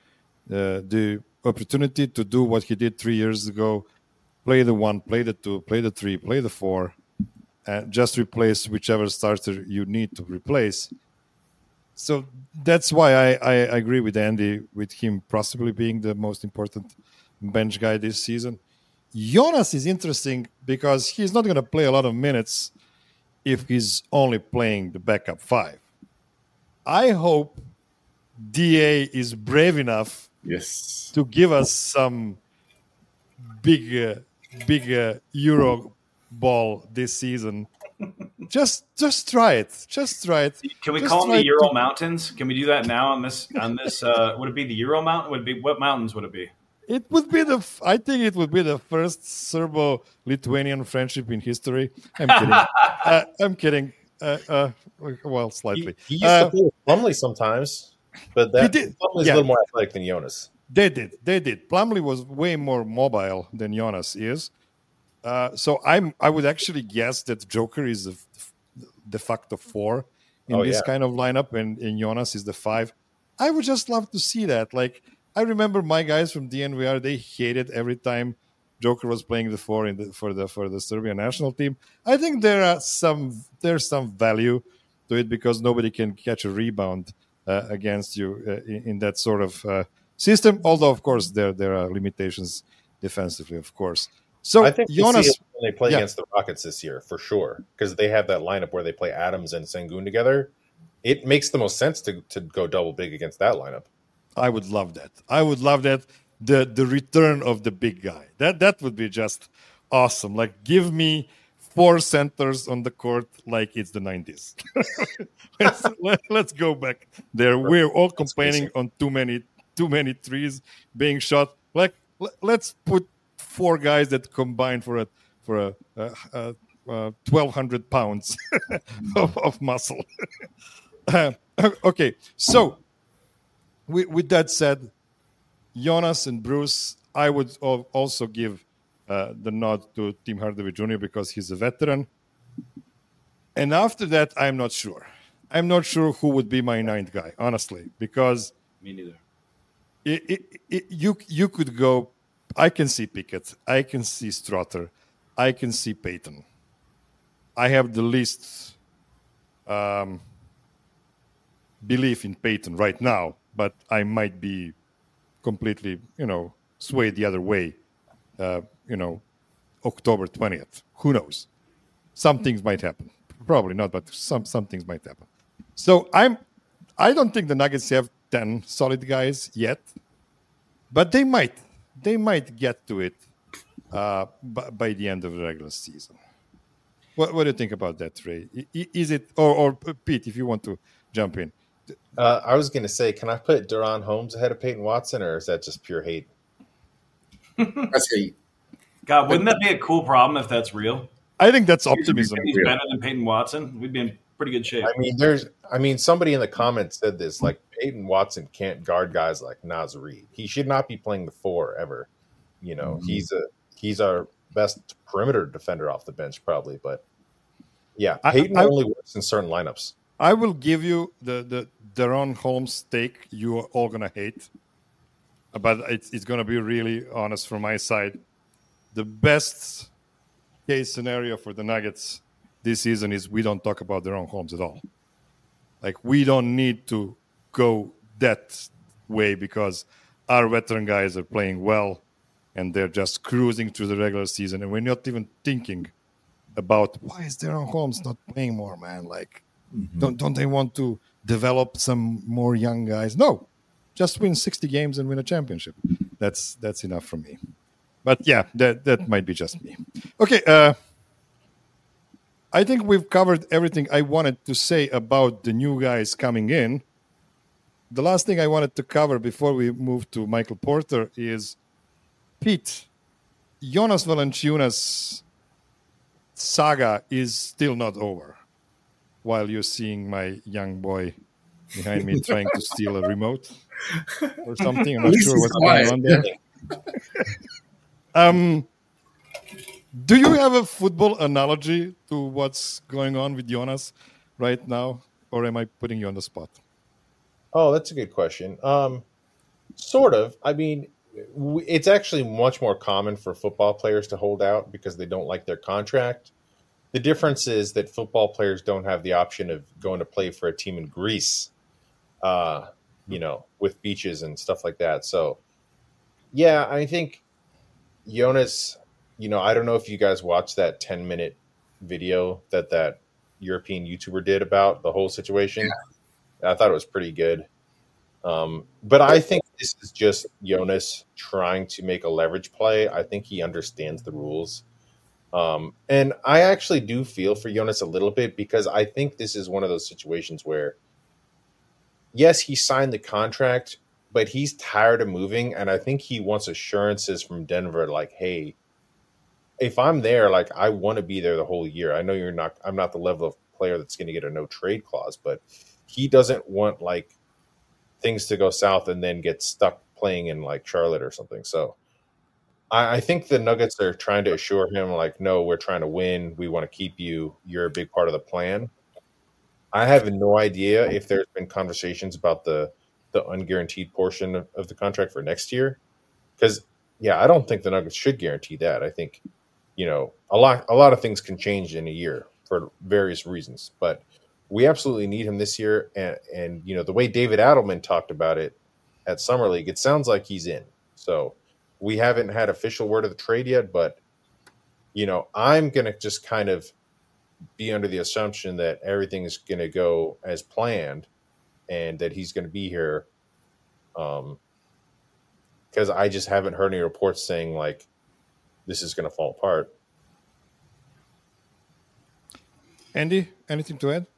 Speaker 1: opportunity to do what he did 3 years ago: play the 1, play the 2, play the 3, play the 4, and just replace whichever starter you need to replace. So that's why I agree with Andy, with him possibly being the most important bench guy this season. Jonas is interesting because he's not going to play a lot of minutes if he's only playing the backup 5. I hope DA is brave enough to give us some big Euro ball this season. Just try it. Just try it.
Speaker 4: Can we call them the Euro Mountains? Can we do that now on this? Would it be the Euro Mountain? What mountains would it be?
Speaker 1: It would be I think it would be the first Serbo-Lithuanian friendship in history. I'm kidding. I'm kidding. Well, slightly.
Speaker 3: He used to play with Plumlee sometimes, but Plumlee's a little more athletic than Jonas.
Speaker 1: They did. Plumlee was way more mobile than Jonas is. So I would actually guess that Joker is the de facto 4 in this kind of lineup, and Jonas is the 5. I would just love to see that. I remember my guys from DNVR, they hated every time Joker was playing before for the Serbian national team. I think there's some value to it because nobody can catch a rebound against you in that sort of system. Although, of course, there are limitations defensively, of course. So
Speaker 3: I think
Speaker 1: Jonas,
Speaker 3: see it when they play against the Rockets this year for sure, because they have that lineup where they play Adams and Sengun together. It makes the most sense to go double big against that lineup.
Speaker 1: I would love that. I would love that. The return of the big guy. That would be just awesome. Like, give me 4 centers on the court like it's the 90s. let's go back there. We're all complaining on too many threes being shot. Like, let's put 4 guys that combine for a 1,200 pounds of muscle. Okay, so with that said, Jonas and Bruce, I would also give the nod to Tim Hardaway Jr. because he's a veteran. And after that, I'm not sure. I'm not sure who would be my 9th guy, honestly, because
Speaker 4: Me neither.
Speaker 1: You could go. I can see Pickett. I can see Strother. I can see Payton. I have the least belief in Payton right now, but I might be completely, swayed the other way, October 20th. Who knows? Some things might happen. Probably not, but some things might happen. So I don't think the Nuggets have 10 solid guys yet, but they might get to it by the end of the regular season. What do you think about that, Ray? Is it, or Pete, if you want to jump in?
Speaker 3: I was going to say, can I put Deron Holmes ahead of Peyton Watson, or is that just pure hate?
Speaker 2: That's hate.
Speaker 4: God, wouldn't that be a cool problem if that's real?
Speaker 1: I think that's optimism.
Speaker 4: He's better than Peyton Watson. We'd be in pretty good shape.
Speaker 3: I mean, somebody in the comments said this, like, Peyton Watson can't guard guys like Naz Reid. He should not be playing the 4 ever. He's our best perimeter defender off the bench, probably. But yeah, Peyton only works in certain lineups.
Speaker 1: I will give you the Deron Holmes take you are all going to hate. But it's going to be really honest from my side. The best case scenario for the Nuggets this season is we don't talk about Deron Holmes at all. Like, we don't need to go that way because our veteran guys are playing well and they're just cruising through the regular season. And we're not even thinking about why is Deron Holmes not playing more, man? Like, don't they want to develop some more young guys? No, just win 60 games and win a championship. That's enough for me. But yeah, that might be just me. Okay, I think we've covered everything I wanted to say about the new guys coming in. The last thing I wanted to cover before we move to Michael Porter is, Pete, Jonas Valanciunas saga is still not over. While you're seeing my young boy behind me trying to steal a remote or something. I'm not sure what's going on there. Do you have a football analogy to what's going on with Jonas right now? Or am I putting you on the spot?
Speaker 3: Oh, that's a good question. Sort of. I mean, it's actually much more common for football players to hold out because they don't like their contract. The difference is that football players don't have the option of going to play for a team in Greece, with beaches and stuff like that. So, yeah, I think Jonas, I don't know if you guys watched that 10-minute video that European YouTuber did about the whole situation. Yeah. I thought it was pretty good. But I think this is just Jonas trying to make a leverage play. I think he understands the rules. And I actually do feel for Jonas a little bit because I think this is one of those situations where, yes, he signed the contract, but he's tired of moving. And I think he wants assurances from Denver, like, hey, if I'm there, like, I want to be there the whole year. I know I'm not the level of player that's going to get a no trade clause, but he doesn't want like things to go south and then get stuck playing in like Charlotte or something. So I think the Nuggets are trying to assure him, like, no, we're trying to win. We want to keep you. You're a big part of the plan. I have no idea if there's been conversations about the unguaranteed portion of the contract for next year. Because yeah, I don't think the Nuggets should guarantee that. I think, a lot of things can change in a year for various reasons, but we absolutely need him this year. And the way David Adelman talked about it at Summer League, it sounds like he's in. So we haven't had official word of the trade yet, but I'm going to just kind of be under the assumption that everything is going to go as planned and that he's going to be here. Because I just haven't heard any reports saying like this is going to fall apart.
Speaker 1: Andy, anything to add?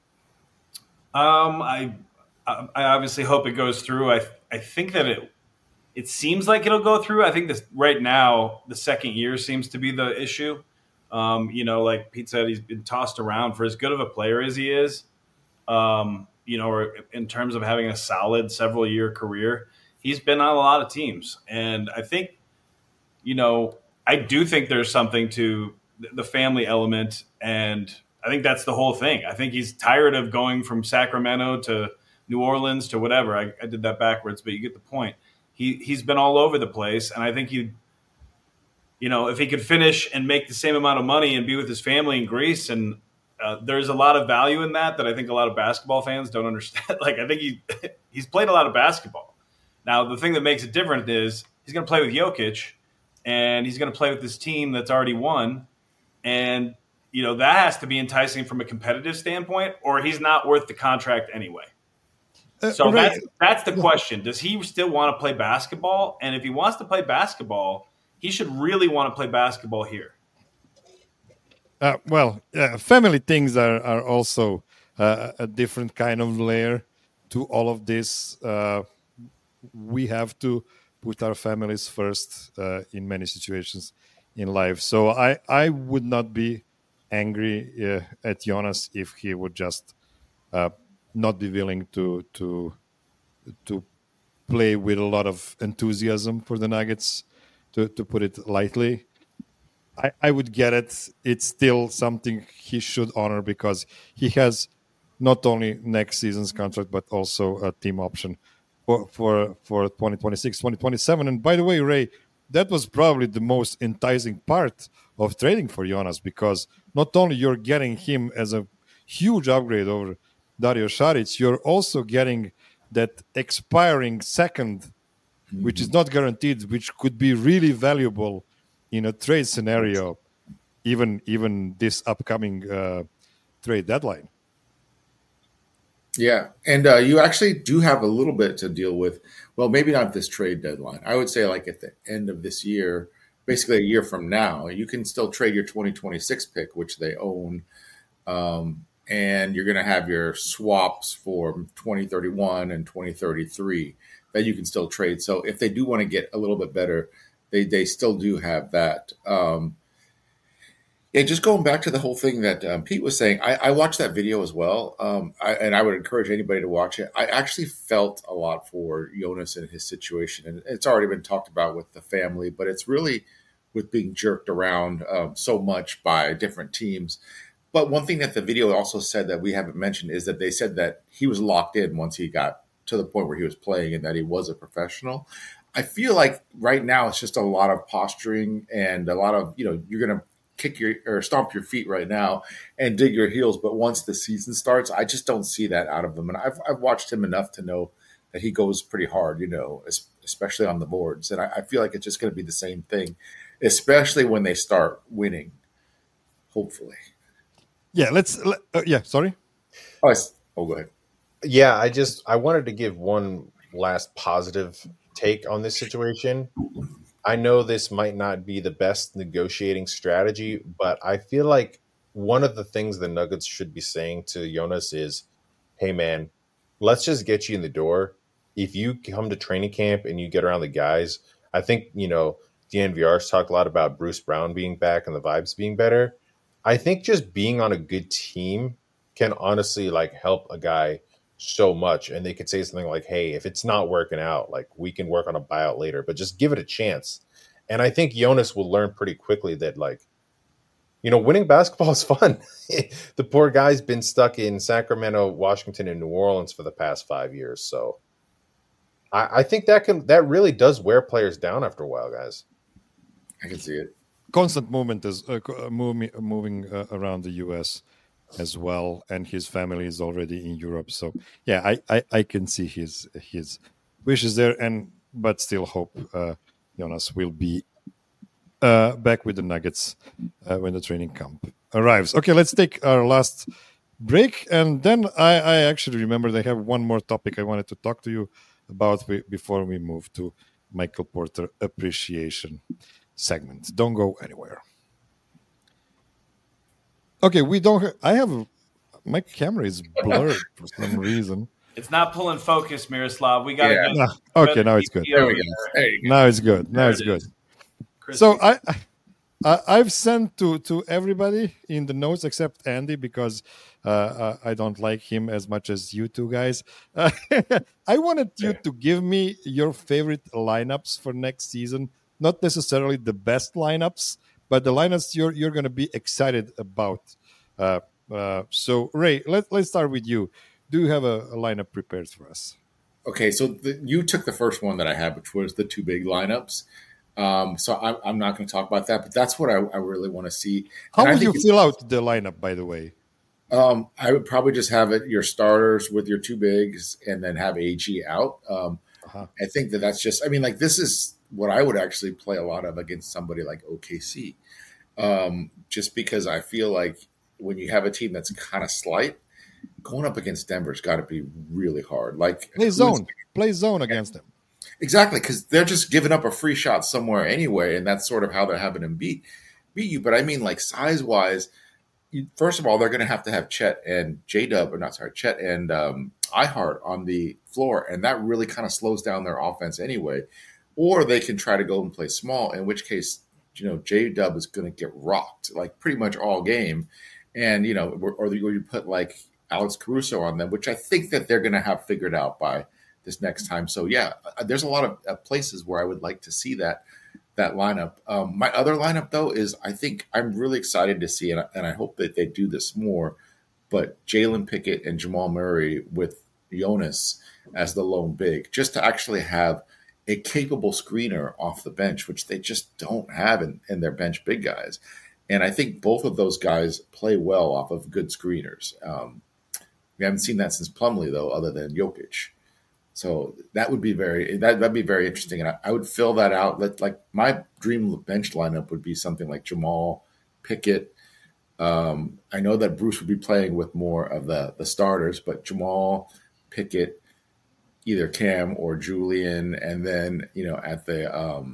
Speaker 4: I obviously hope it goes through. I think that it seems like it'll go through. I think this right now, the second year seems to be the issue. Like Pete said, he's been tossed around for as good of a player as he is. Or in terms of having a solid several year career, he's been on a lot of teams. And I think, I do think there's something to the family element. And I think that's the whole thing. I think he's tired of going from Sacramento to New Orleans to whatever. I did that backwards, but you get the point. He's been all over the place. And I think if he could finish and make the same amount of money and be with his family in Greece, and there's a lot of value in that I think a lot of basketball fans don't understand. Like, I think he's played a lot of basketball. Now, the thing that makes it different is he's going to play with Jokic, and he's going to play with this team that's already won. And, that has to be enticing from a competitive standpoint, or he's not worth the contract anyway. So right. That's the question. Does he still want to play basketball? And if he wants to play basketball, he should really want to play basketball here.
Speaker 1: Family things are also a different kind of layer to all of this. We have to put our families first in many situations in life. So I would not be angry at Jonas if he would just not be willing to play with a lot of enthusiasm for the Nuggets, to put it lightly. I would get it. It's still something he should honor because he has not only next season's contract, but also a team option for 2026, 2027. And by the way, Ray, that was probably the most enticing part of trading for Jonas, because not only you're getting him as a huge upgrade over Dario Saric, you're also getting that expiring second, which is not guaranteed, which could be really valuable in a trade scenario, even this upcoming trade deadline.
Speaker 2: Yeah, and you actually do have a little bit to deal with. Well, maybe not this trade deadline. I would say like at the end of this year, basically a year from now, you can still trade your 2026 pick, which they own, and you're going to have your swaps for 2031 and 2033 that you can still trade. So if they do want to get a little bit better, they still do have that. Yeah, just going back to the whole thing that Pete was saying, I watched that video as well, and I would encourage anybody to watch it. I actually felt a lot for Jonas and his situation, and it's already been talked about with the family, but it's really with being jerked around so much by different teams. But one thing that the video also said that we haven't mentioned is that they said that he was locked in once he got to the point where he was playing and that he was a professional. I feel like right now it's just a lot of posturing and a lot of, you're going to kick or stomp your feet right now and dig your heels. But once the season starts, I just don't see that out of him. And I've watched him enough to know that he goes pretty hard, especially on the boards. And I feel like it's just going to be the same thing, especially when they start winning, hopefully.
Speaker 1: Yeah, sorry.
Speaker 2: Oh, go ahead.
Speaker 3: Yeah, I wanted to give one last positive take on this situation. I know this might not be the best negotiating strategy, but I feel like one of the things the Nuggets should be saying to Jonas is, hey, man, let's just get you in the door. If you come to training camp and you get around the guys, I think, DNVR's talked a lot about Bruce Brown being back and the vibes being better. I think just being on a good team can honestly help a guy so much. And they could say something like, hey, if it's not working out, we can work on a buyout later, but just give it a chance. And I think Jonas will learn pretty quickly that winning basketball is fun. The poor guy's been stuck in Sacramento, Washington, and New Orleans for the past 5 years. So I think that really does wear players down after a while, guys.
Speaker 2: I can see it.
Speaker 1: constant movement is moving around the U.S. as well, and his family is already in Europe. So yeah, I can see his wishes there, but still hope Jonas will be back with the Nuggets when the training camp arrives. Okay, let's take our last break, and then I actually remember they have one more topic I wanted to talk to you about before we move to Michael Porter appreciation segment. Don't go anywhere. Okay, we don't. I have my camera is blurred for some reason.
Speaker 4: It's not pulling focus, Miroslav. We got to
Speaker 2: Yeah.
Speaker 4: go.
Speaker 1: Okay, now it's good.
Speaker 2: There we go. There you go.
Speaker 1: Now it's good. Now
Speaker 4: There
Speaker 1: it's
Speaker 4: it
Speaker 1: good.
Speaker 4: is. Crispy.
Speaker 1: So I've sent to everybody in the notes except Andy because I don't like him as much as you two guys. I wanted you to give me your favorite lineups for next season. Not necessarily the best lineups, but the lineups you're going to be excited about. So Ray, let's start with you. Do you have a lineup prepared for us?
Speaker 2: Okay, so you took the first one that I had, which was the two big lineups. So I'm not going to talk about that, but that's what I really want to see.
Speaker 1: How
Speaker 2: And I
Speaker 1: would you
Speaker 2: think
Speaker 1: fill out the lineup, by the way?
Speaker 2: I would probably just have it your starters with your two bigs, and then have AG out. I think that's just. I mean, like this is what I would actually play a lot of against somebody like OKC, just because I feel like when you have a team that's kind of slight, going up against Denver's got to be really hard. Like
Speaker 1: Play zone against them.
Speaker 2: Exactly, because they're just giving up a free shot somewhere anyway, and that's sort of how they're having them beat you. But I mean, like size wise, first of all, they're going to have Chet and Chet and Ihart on the floor, and that really kind of slows down their offense anyway. Or they can try to go and play small, in which case, J Dub is going to get rocked like pretty much all game, and or you put like Alex Caruso on them, which I think that they're going to have figured out by this next time. So yeah, there's a lot of places where I would like to see that lineup. My other lineup though is I think I'm really excited to see, and I hope that they do this more, but Jalen Pickett and Jamal Murray with Jonas as the lone big, just to actually have a capable screener off the bench, which they just don't have in their bench big guys. And I think both of those guys play well off of good screeners. We haven't seen that since Plumlee though, other than Jokic. So that would be that'd be very interesting, and I would fill that out. Like my dream bench lineup would be something like Jamal, Pickett. I know that Bruce would be playing with more of the starters, but Jamal, Pickett, either Cam or Julian, and then at the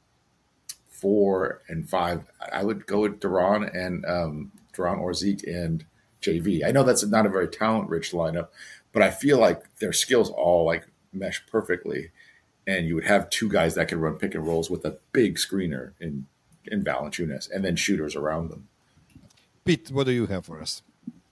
Speaker 2: 4 and 5, I would go with Duran or Zeke and JV. I know that's not a very talent-rich lineup, but I feel like their skills all like mesh perfectly, and you would have two guys that could run pick and rolls with a big screener in Valanciunas, and then shooters around them.
Speaker 1: Pete, what do you have for us?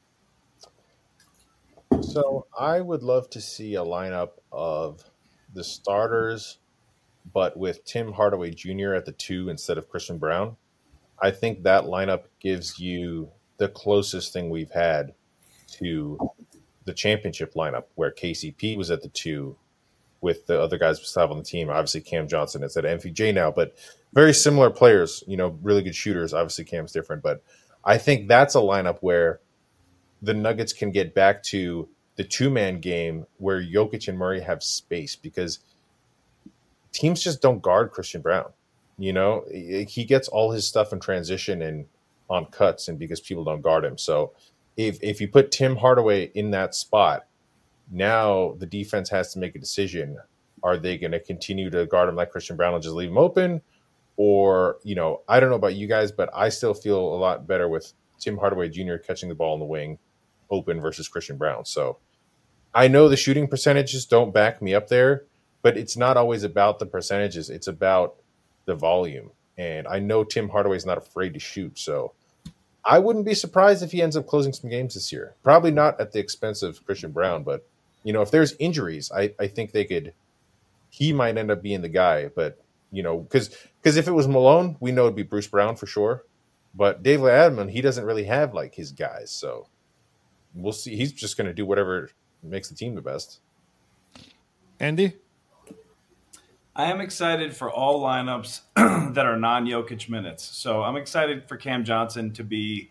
Speaker 3: So I would love to see a lineup of the starters, but with Tim Hardaway Jr. at the 2 instead of Christian Brown. I think that lineup gives you the closest thing we've had to the championship lineup, where KCP was at the 2 with the other guys we still have on the team. Obviously, Cam Johnson is at MPJ now, but very similar players, really good shooters. Obviously, Cam's different, but I think that's a lineup where the Nuggets can get back to the two-man game where Jokic and Murray have space, because teams just don't guard Christian Brown. He gets all his stuff in transition and on cuts, and because people don't guard him. So if you put Tim Hardaway in that spot, now the defense has to make a decision. Are they going to continue to guard him like Christian Brown and just leave him open? Or, I don't know about you guys, but I still feel a lot better with Tim Hardaway Jr. catching the ball in the wing open versus Christian Brown. So I know the shooting percentages don't back me up there, but it's not always about the percentages. It's about the volume. And I know Tim Hardaway's not afraid to shoot. So I wouldn't be surprised if he ends up closing some games this year. Probably not at the expense of Christian Brown, but if there's injuries, I think he might end up being the guy. But, because if it was Malone, we know it'd be Bruce Brown for sure. But David Adman, he doesn't really have like his guys. So we'll see. He's just going to do whatever makes the team the best.
Speaker 1: Andy?
Speaker 4: I am excited for all lineups that are non-Jokic minutes. So I'm excited for Cam Johnson to be,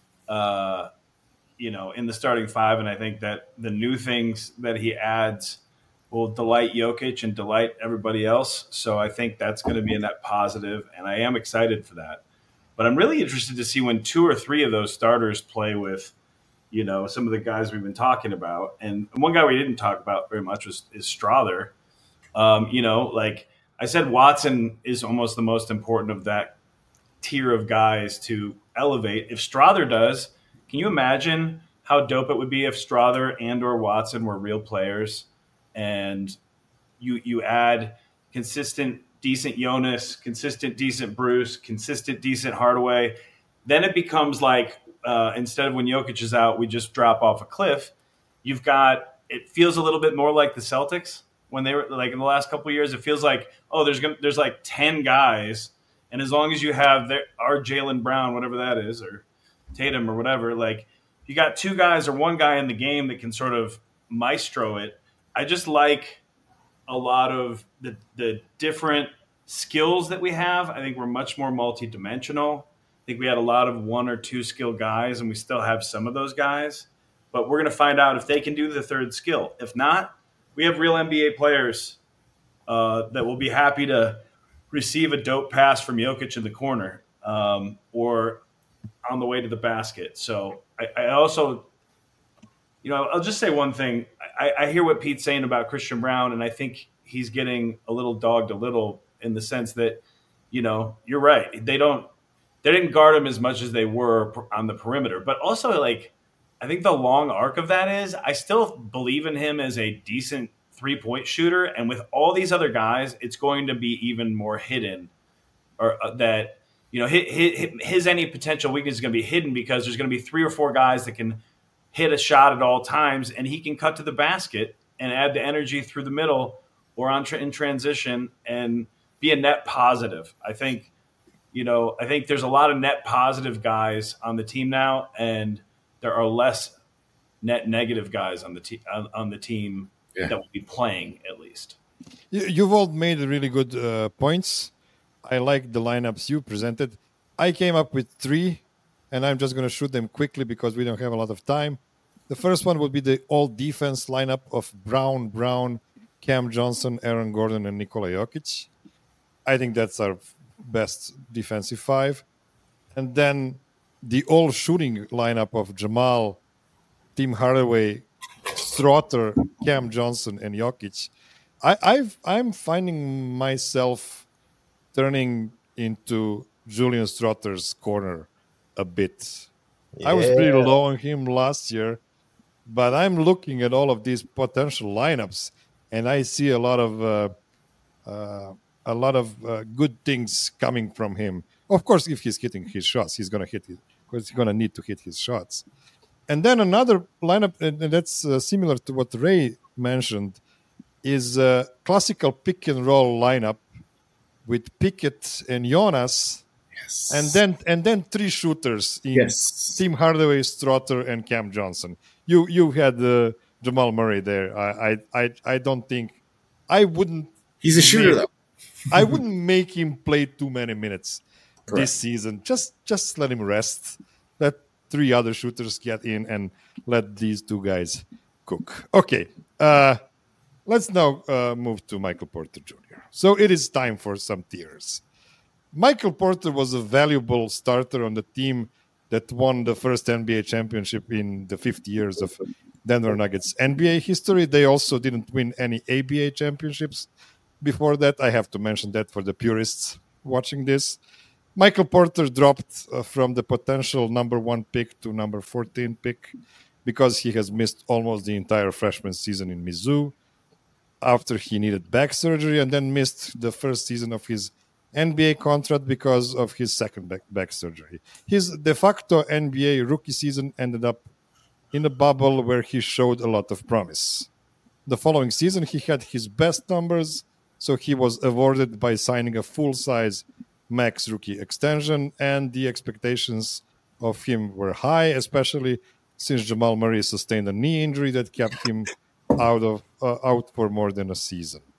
Speaker 4: in the starting five, and I think that the new things that he adds will delight Jokic and delight everybody else. So I think that's going to be a net positive, and I am excited for that. But I'm really interested to see when 2 or 3 of those starters play with, some of the guys we've been talking about. And one guy we didn't talk about very much is Strother. Like I said, Watson is almost the most important of that tier of guys to elevate. If Strother does, can you imagine how dope it would be if Strother and or Watson were real players, and you add consistent, decent Jonas, consistent, decent Bruce, consistent, decent Hardaway? Then it becomes like instead of when Jokic is out, we just drop off a cliff. It feels a little bit more like the Celtics when they were like in the last couple of years. It feels like, there's like 10 guys, and as long as you have our Jaylen Brown, whatever that is, or Tatum or whatever, like you got 2 guys or 1 guy in the game that can sort of maestro it. I just like a lot of the different skills that we have. I think we're much more multidimensional. I think we had a lot of 1 or 2 skill guys, and we still have some of those guys. But we're going to find out if they can do the third skill. If not, we have real NBA players that will be happy to receive a dope pass from Jokic in the corner or on the way to the basket. So I also, I'll just say one thing. I hear what Pete's saying about Christian Brown, and I think he's getting a little dogged a little in the sense that, you're right. They didn't guard him as much as they were on the perimeter. But also, like, I think the long arc of that is I still believe in him as a decent 3-point shooter. And with all these other guys, it's going to be even more hidden, or that, his any potential weakness is going to be hidden because there's going to be 3 or 4 guys that can hit a shot at all times, and he can cut to the basket and add the energy through the middle or in transition and be a net positive. I think there's a lot of net positive guys on the team now, and there are less net negative guys on the team that will be playing, at least.
Speaker 1: You've all made really good points. I like the lineups you presented. I came up with 3, and I'm just going to shoot them quickly because we don't have a lot of time. The first one would be the all-defense lineup of Brown, Cam Johnson, Aaron Gordon, and Nikola Jokic. I think that's our best defensive 5. And then the all-shooting lineup of Jamal, Tim Hardaway, Strother, Cam Johnson, and Jokic. I'm finding myself turning into Julian Strother's corner a bit. Yeah. I was pretty low on him last year, but I'm looking at all of these potential lineups, and I see a lot of good things coming from him. Of course, if he's hitting his shots, he's going to need to hit his shots. And then another lineup, and that's similar to what Ray mentioned, is a classical pick and roll lineup with Pickett and Jonas.
Speaker 2: Yes.
Speaker 1: And then 3 shooters in Tim Hardaway, Strother, and Cam Johnson. You had Jamal Murray there. I don't think I wouldn't.
Speaker 2: He's a shooter though.
Speaker 1: I wouldn't make him play too many minutes this season. Just let him rest. Let 3 other shooters get in and let these 2 guys cook. Okay. Let's now move to Michael Porter Jr. So it is time for some tiers. Michael Porter was a valuable starter on the team that won the first NBA championship in the 50 years of Denver Nuggets NBA history. They also didn't win any ABA championships before that. I have to mention that for the purists watching this. Michael Porter dropped from the potential number 1 pick to number 14 pick because he has missed almost the entire freshman season in Mizzou after he needed back surgery, and then missed the first season of his NBA contract because of his second back surgery. His de facto NBA rookie season ended up in a bubble where he showed a lot of promise. The following season, he had his best numbers, so he was awarded by signing a full-size max rookie extension, and the expectations of him were high, especially since Jamal Murray sustained a knee injury that kept him out for more than a season.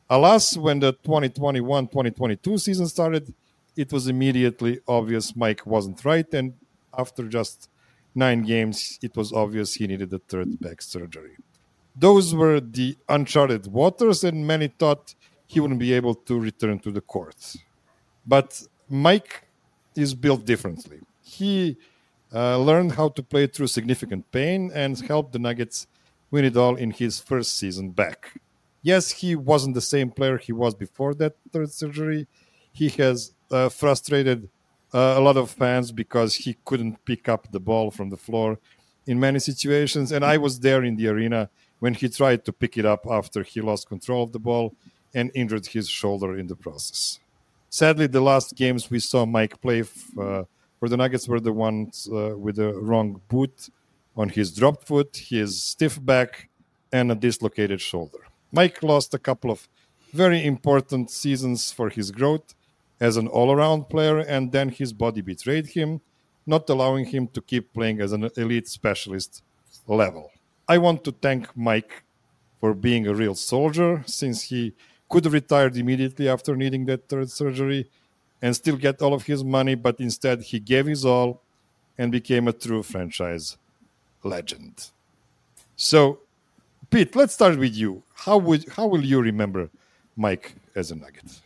Speaker 1: Alas, when the 2021-2022 season started, it was immediately obvious Mike wasn't right, and after just 9 games, it was obvious he needed a third back surgery. Those were the uncharted waters, and many thought he wouldn't be able to return to the court. But Mike is built differently. He learned how to play through significant pain and helped the Nuggets win it all in his first season back. Yes, he wasn't the same player he was before that third surgery. He has frustrated a lot of fans because he couldn't pick up the ball from the floor in many situations. And I was there in the arena when he tried to pick it up after he lost control of the ball and injured his shoulder in the process. Sadly, the last games we saw Mike play for the Nuggets were the ones with the wrong boot on his dropped foot, his stiff back, and a dislocated shoulder. Mike lost a couple of very important seasons for his growth as an all-around player, and then his body betrayed him, not allowing him to keep playing as an elite specialist level. I want to thank Mike for being a real soldier, since he could have retired immediately after needing that third surgery and still get all of his money, but instead he gave his all and became a true franchise legend. So, Pete, let's start with you. How will you remember Mike as a Nugget?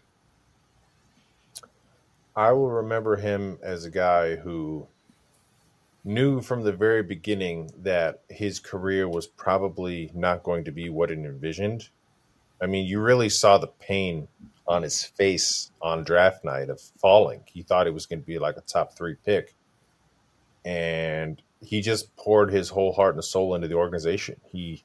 Speaker 3: I will remember him as a guy who knew from the very beginning that his career was probably not going to be what it envisioned. I mean, you really saw the pain on his face on draft night of falling. He thought it was going to be like a top 3 pick. And he just poured his whole heart and soul into the organization.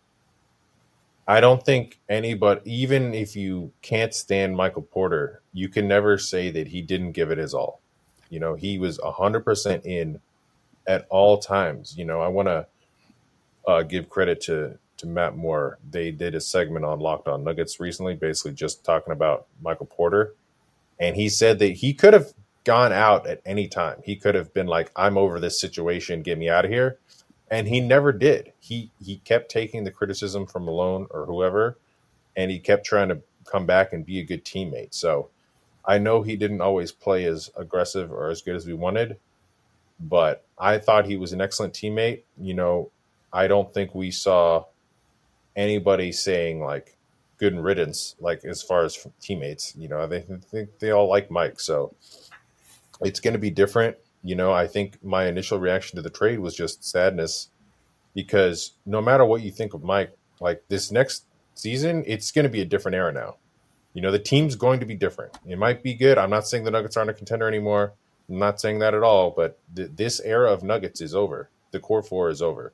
Speaker 3: I don't think anybody, even if you can't stand Michael Porter, you can never say that he didn't give it his all. You know, he was 100% in at all times. You know, I want to give credit to Matt Moore. They did a segment on Locked On Nuggets recently, basically just talking about Michael Porter. And he said that he could have gone out at any time. He could have been like, I'm over this situation, get me out of here. And he never did. He kept taking the criticism from Malone or whoever, and he kept trying to come back and be a good teammate. So I know he didn't always play as aggressive or as good as we wanted, but I thought he was an excellent teammate. You know, I don't think we saw anybody saying like good riddance, like as far as teammates. You know, they think they all like Mike. So it's going to be different. You know, I think my initial reaction to the trade was just sadness, because no matter what you think of Mike, like this next season, it's going to be a different era now. You know, the team's going to be different. It might be good. I'm not saying the Nuggets aren't a contender anymore. I'm not saying that at all, but this era of Nuggets is over. The core 4 is over.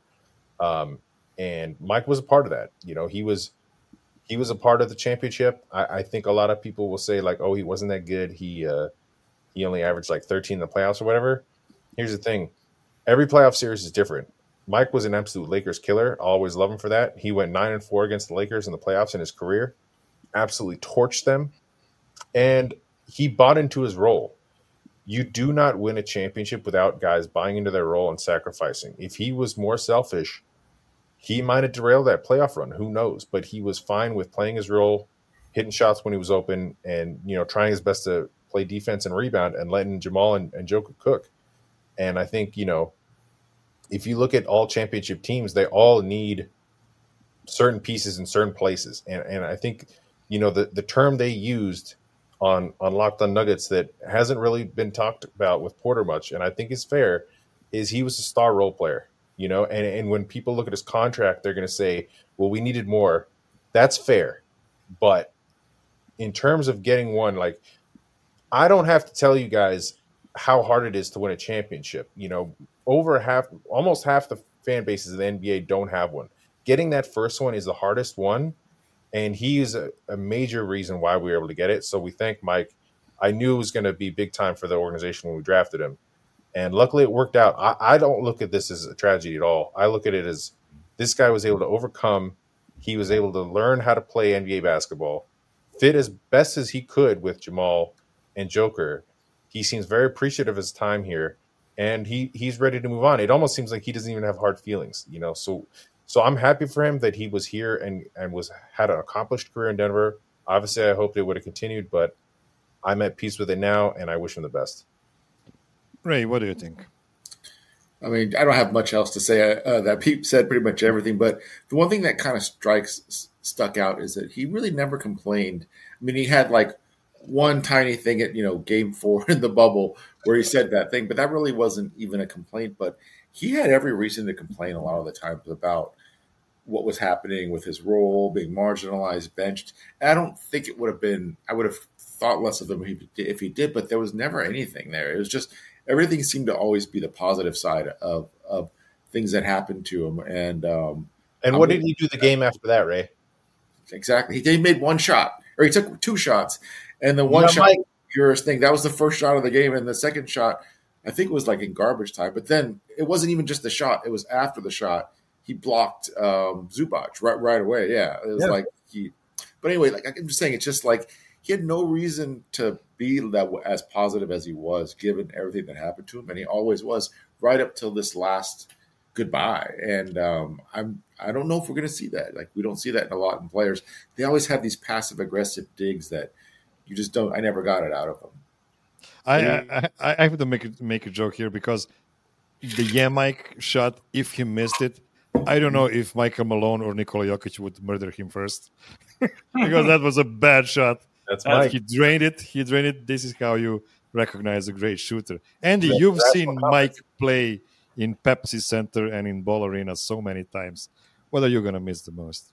Speaker 3: And Mike was a part of that. You know, he was a part of the championship. I think a lot of people will say like, oh, he wasn't that good. He only averaged like 13 in the playoffs or whatever. Here's the thing. Every playoff series is different. Mike was an absolute Lakers killer. I always love him for that. He went 9-4 against the Lakers in the playoffs in his career. Absolutely torched them. And he bought into his role. You do not win a championship without guys buying into their role and sacrificing. If he was more selfish, he might have derailed that playoff run. Who knows? But he was fine with playing his role, hitting shots when he was open, and, you know, trying his best to play defense and rebound and letting Jamal and Joker cook. And I think, you know, if you look at all championship teams, they all need certain pieces in certain places. And I think, you know, the term they used on Locked On Nuggets that hasn't really been talked about with Porter much, and I think is fair, is he was a star role player, you know, and when people look at his contract, they're going to say, well, we needed more. That's fair. But in terms of getting one, like, I don't have to tell you guys how hard it is to win a championship. You know, almost half the fan bases of the NBA don't have one. Getting that first one is the hardest one, and he is a major reason why we were able to get it. So we thank Mike. I knew it was going to be big time for the organization when we drafted him, and luckily it worked out. I don't look at this as a tragedy at all. I look at it as this guy was able to overcome. He was able to learn how to play NBA basketball, fit as best as he could with Jamal and Joker. He seems very appreciative of his time here, and he's ready to move on. It almost seems like he doesn't even have hard feelings, So I'm happy for him that he was here and had an accomplished career in Denver. Obviously, I hoped it would have continued, but I'm at peace with it now, and I wish him the best.
Speaker 1: Ray, what do you think?
Speaker 2: I mean, I don't have much else to say. That Pete said pretty much everything, but the one thing that kind of stuck out is that he really never complained. I mean, he had like one tiny thing at game 4 in the bubble where he said that thing, but that really wasn't even a complaint. But he had every reason to complain a lot of the times about what was happening with his role, being marginalized, benched. And I don't think it would have been. I would have thought less of him if he did, but there was never anything there. It was just everything seemed to always be the positive side of things that happened to him. And
Speaker 3: what did he do the game after that, Ray?
Speaker 2: Exactly. He made one shot, or he took 2 shots, and the one shot, purest thing, that was the first shot of the game, and the second shot, I think it was like in garbage time. But then it wasn't even just the shot; it was after the shot. He blocked Zubac right away. Yeah, it was like he. But anyway, like I'm just saying, it's just like he had no reason to be that as positive as he was, given everything that happened to him, and he always was right up till this last goodbye. And I don't know if we're going to see that. Like we don't see that in a lot in players. They always have these passive aggressive digs that you just don't. I never got it out of them.
Speaker 1: I have to make a joke here because the Mike shot, if he missed it, I don't know if Michael Malone or Nikola Jokic would murder him first because that was a bad shot.
Speaker 3: That's Mike.
Speaker 1: He drained it. This is how you recognize a great shooter. Andy, you've seen Mike play in Pepsi Center and in Ball Arena so many times. What are you going to miss the most?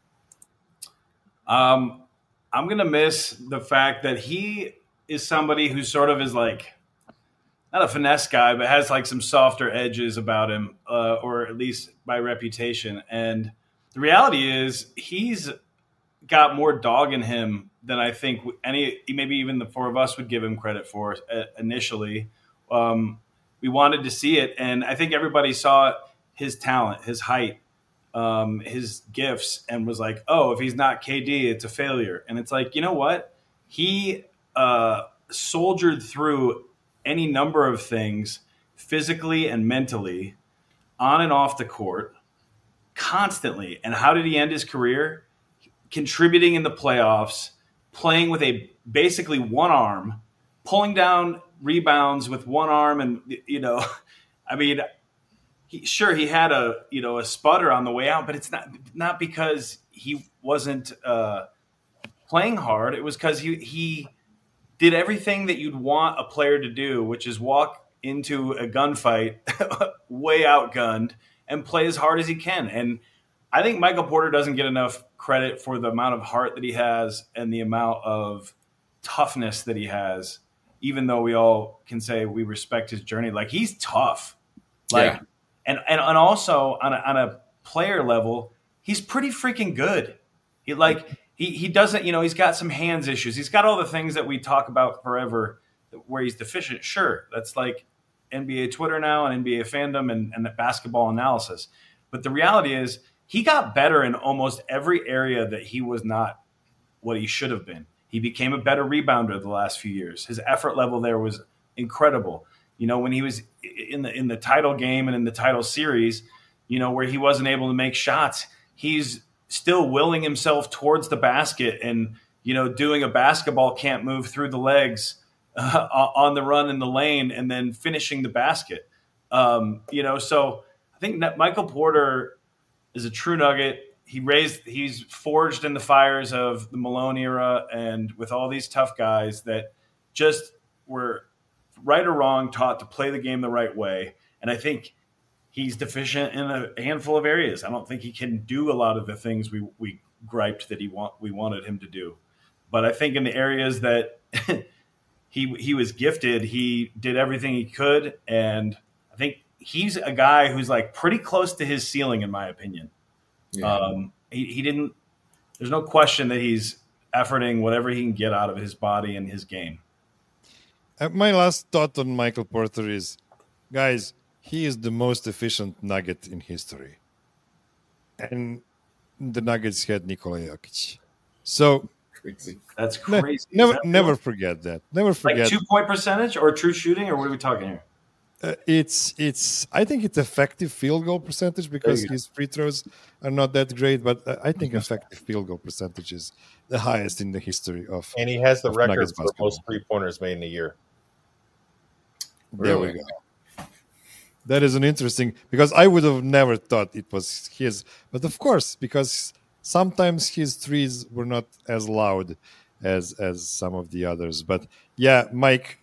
Speaker 4: I'm going to miss the fact that he is somebody who sort of is like, not a finesse guy, but has like some softer edges about him, or at least by reputation. And the reality is he's got more dog in him than I think maybe even the 4 of us would give him credit for initially. We wanted to see it, and I think everybody saw his talent, his height, his gifts, and was like, oh, if he's not KD, it's a failure. And it's like, you know what? He soldiered through any number of things physically and mentally on and off the court constantly. And how did he end his career? Contributing in the playoffs, playing with basically one arm, pulling down rebounds with one arm. And, I mean, he had a sputter on the way out, but it's not because he wasn't playing hard. It was because he did everything that you'd want a player to do, which is walk into a gunfight way outgunned and play as hard as he can. And I think Michael Porter doesn't get enough credit for the amount of heart that he has and the amount of toughness that he has, even though we all can say we respect his journey. Like, he's tough. Like, yeah. And also on a player level, he's pretty freaking good. He doesn't, he's got some hands issues. He's got all the things that we talk about forever where he's deficient. Sure, that's like NBA Twitter now and NBA fandom and the basketball analysis. But the reality is he got better in almost every area that he was not what he should have been. He became a better rebounder the last few years. His effort level there was incredible. When he was in the title game and in the title series, where he wasn't able to make shots, he's still willing himself towards the basket and, doing a basketball can't move through the legs on the run in the lane and then finishing the basket. So I think that Michael Porter is a true nugget. He's forged in the fires of the Malone era and with all these tough guys that just were right or wrong taught to play the game the right way. And I think he's deficient in a handful of areas. I don't think he can do a lot of the things we griped that we wanted him to do. But I think in the areas that he was gifted, he did everything he could. And I think he's a guy who's like pretty close to his ceiling, in my opinion. Yeah. He didn't. There's no question that he's efforting whatever he can get out of his body and his game.
Speaker 1: My last thought on Michael Porter is, guys, he is the most efficient Nugget in history. And the Nuggets had Nikola Jokic. So
Speaker 4: that's crazy.
Speaker 1: Never forget that. Never forget.
Speaker 4: Like 2-point percentage or true shooting, or what are we talking here?
Speaker 1: It's. I think it's effective field goal percentage because
Speaker 2: you go.
Speaker 1: his free throws are not that great. But I think effective field goal percentage is the highest in the history of.
Speaker 3: And he has the
Speaker 1: of
Speaker 3: record
Speaker 1: Nuggets
Speaker 3: for
Speaker 1: basketball.
Speaker 3: most 3-pointers made in a year.
Speaker 1: There we
Speaker 2: Really?
Speaker 1: go. That is an interesting because I would have never thought it was his, but of course because sometimes his threes were not as loud as some of the others. But yeah, Mike,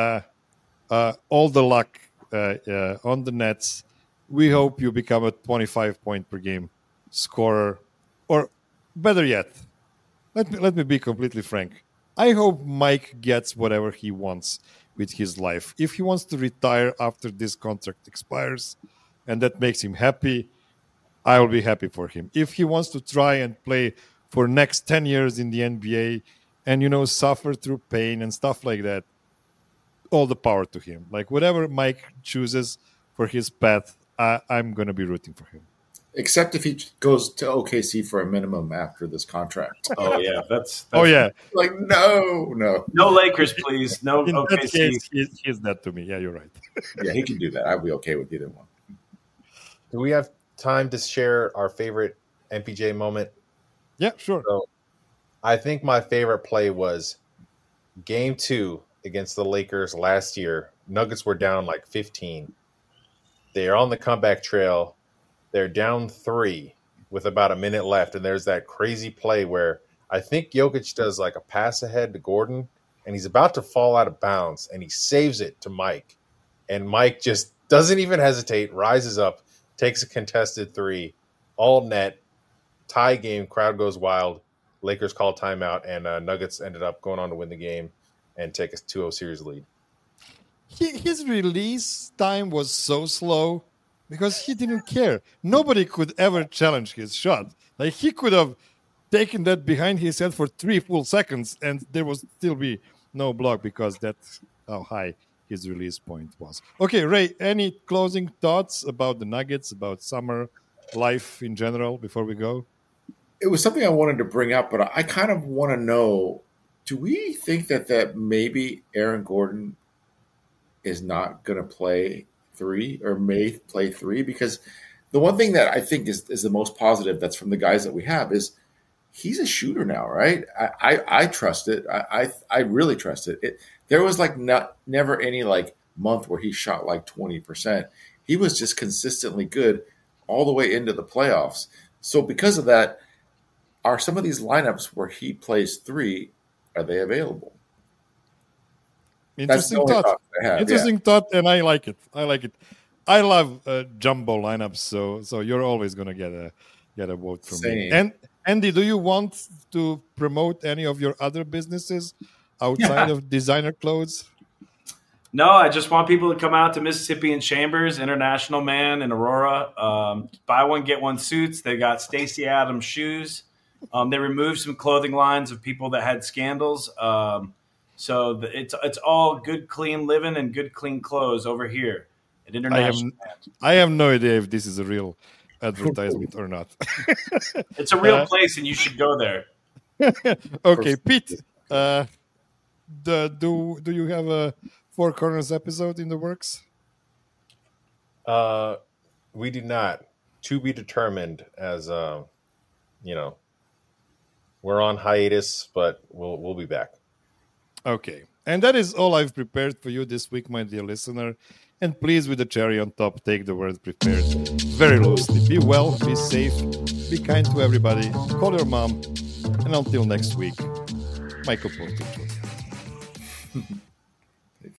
Speaker 1: all the luck on the Nets. We hope you become a 25-point per game scorer, or better yet, let me be completely frank. I hope Mike gets whatever he wants with his life. If he wants to retire after this contract expires and that makes him happy, I will be happy for him. If he wants to try and play for next 10 years in the NBA and, suffer through pain and stuff like that, all the power to him. Like whatever Mike chooses for his path, I'm going to be rooting for him.
Speaker 2: Except if he goes to OKC for a minimum after this contract.
Speaker 4: Oh yeah, that's
Speaker 1: Oh, yeah.
Speaker 2: Like, no.
Speaker 4: no Lakers, please. No
Speaker 1: In that
Speaker 4: OKC.
Speaker 1: case, he's that to me. Yeah, you're right.
Speaker 2: Yeah, he can do that. I'd be okay with either one.
Speaker 3: Do we have time to share our favorite MPJ moment?
Speaker 1: Yeah, sure.
Speaker 3: So I think my favorite play was Game 2 against the Lakers last year. Nuggets were down like 15. They are on the comeback trail. They're down 3 with about a minute left, and there's that crazy play where I think Jokic does like a pass ahead to Gordon, and he's about to fall out of bounds, and he saves it to Mike. And Mike just doesn't even hesitate, rises up, takes a contested 3, all net, tie game, crowd goes wild. Lakers call timeout, and Nuggets ended up going on to win the game and take a 2-0 series lead.
Speaker 1: His release time was so slow because he didn't care. Nobody could ever challenge his shot. Like he could have taken that behind his head for 3 full seconds and there would still be no block because that's how high his release point was. Okay, Ray, any closing thoughts about the Nuggets, about summer life in general before we go?
Speaker 2: It was something I wanted to bring up, but I kind of want to know, do we think that maybe Aaron Gordon is not going to play 3 or may play 3? Because the one thing that I think is the most positive that's from the guys that we have is he's a shooter now, right? I trust it. I really trust it. There was like never any like month where he shot like 20%. He was just consistently good all the way into the playoffs. So because of that, are some of these lineups where he plays 3, are they available?
Speaker 1: Interesting thought. Interesting thought, and I like it. I love jumbo lineups, so you're always gonna get a vote from me. And Andy, do you want to promote any of your other businesses outside of designer clothes?
Speaker 4: No, I just want people to come out to Mississippi and Chambers, International Man in Aurora. Buy one, get one suits. They got Stacey Adams shoes. They removed some clothing lines of people that had scandals. So it's all good, clean living and good, clean clothes over here at International.
Speaker 1: I have no idea if this is a real advertisement or not.
Speaker 4: It's a real place, and you should go there.
Speaker 1: Okay, Pete. Do you have a Four Corners episode in the works?
Speaker 3: We do not. To be determined. As we're on hiatus, but we'll be back.
Speaker 1: Okay. And that is all I've prepared for you this week, my dear listener. And please, with the cherry on top, take the word prepared very loosely. Be well, be safe, be kind to everybody, call your mom, and until next week, Michael Porter.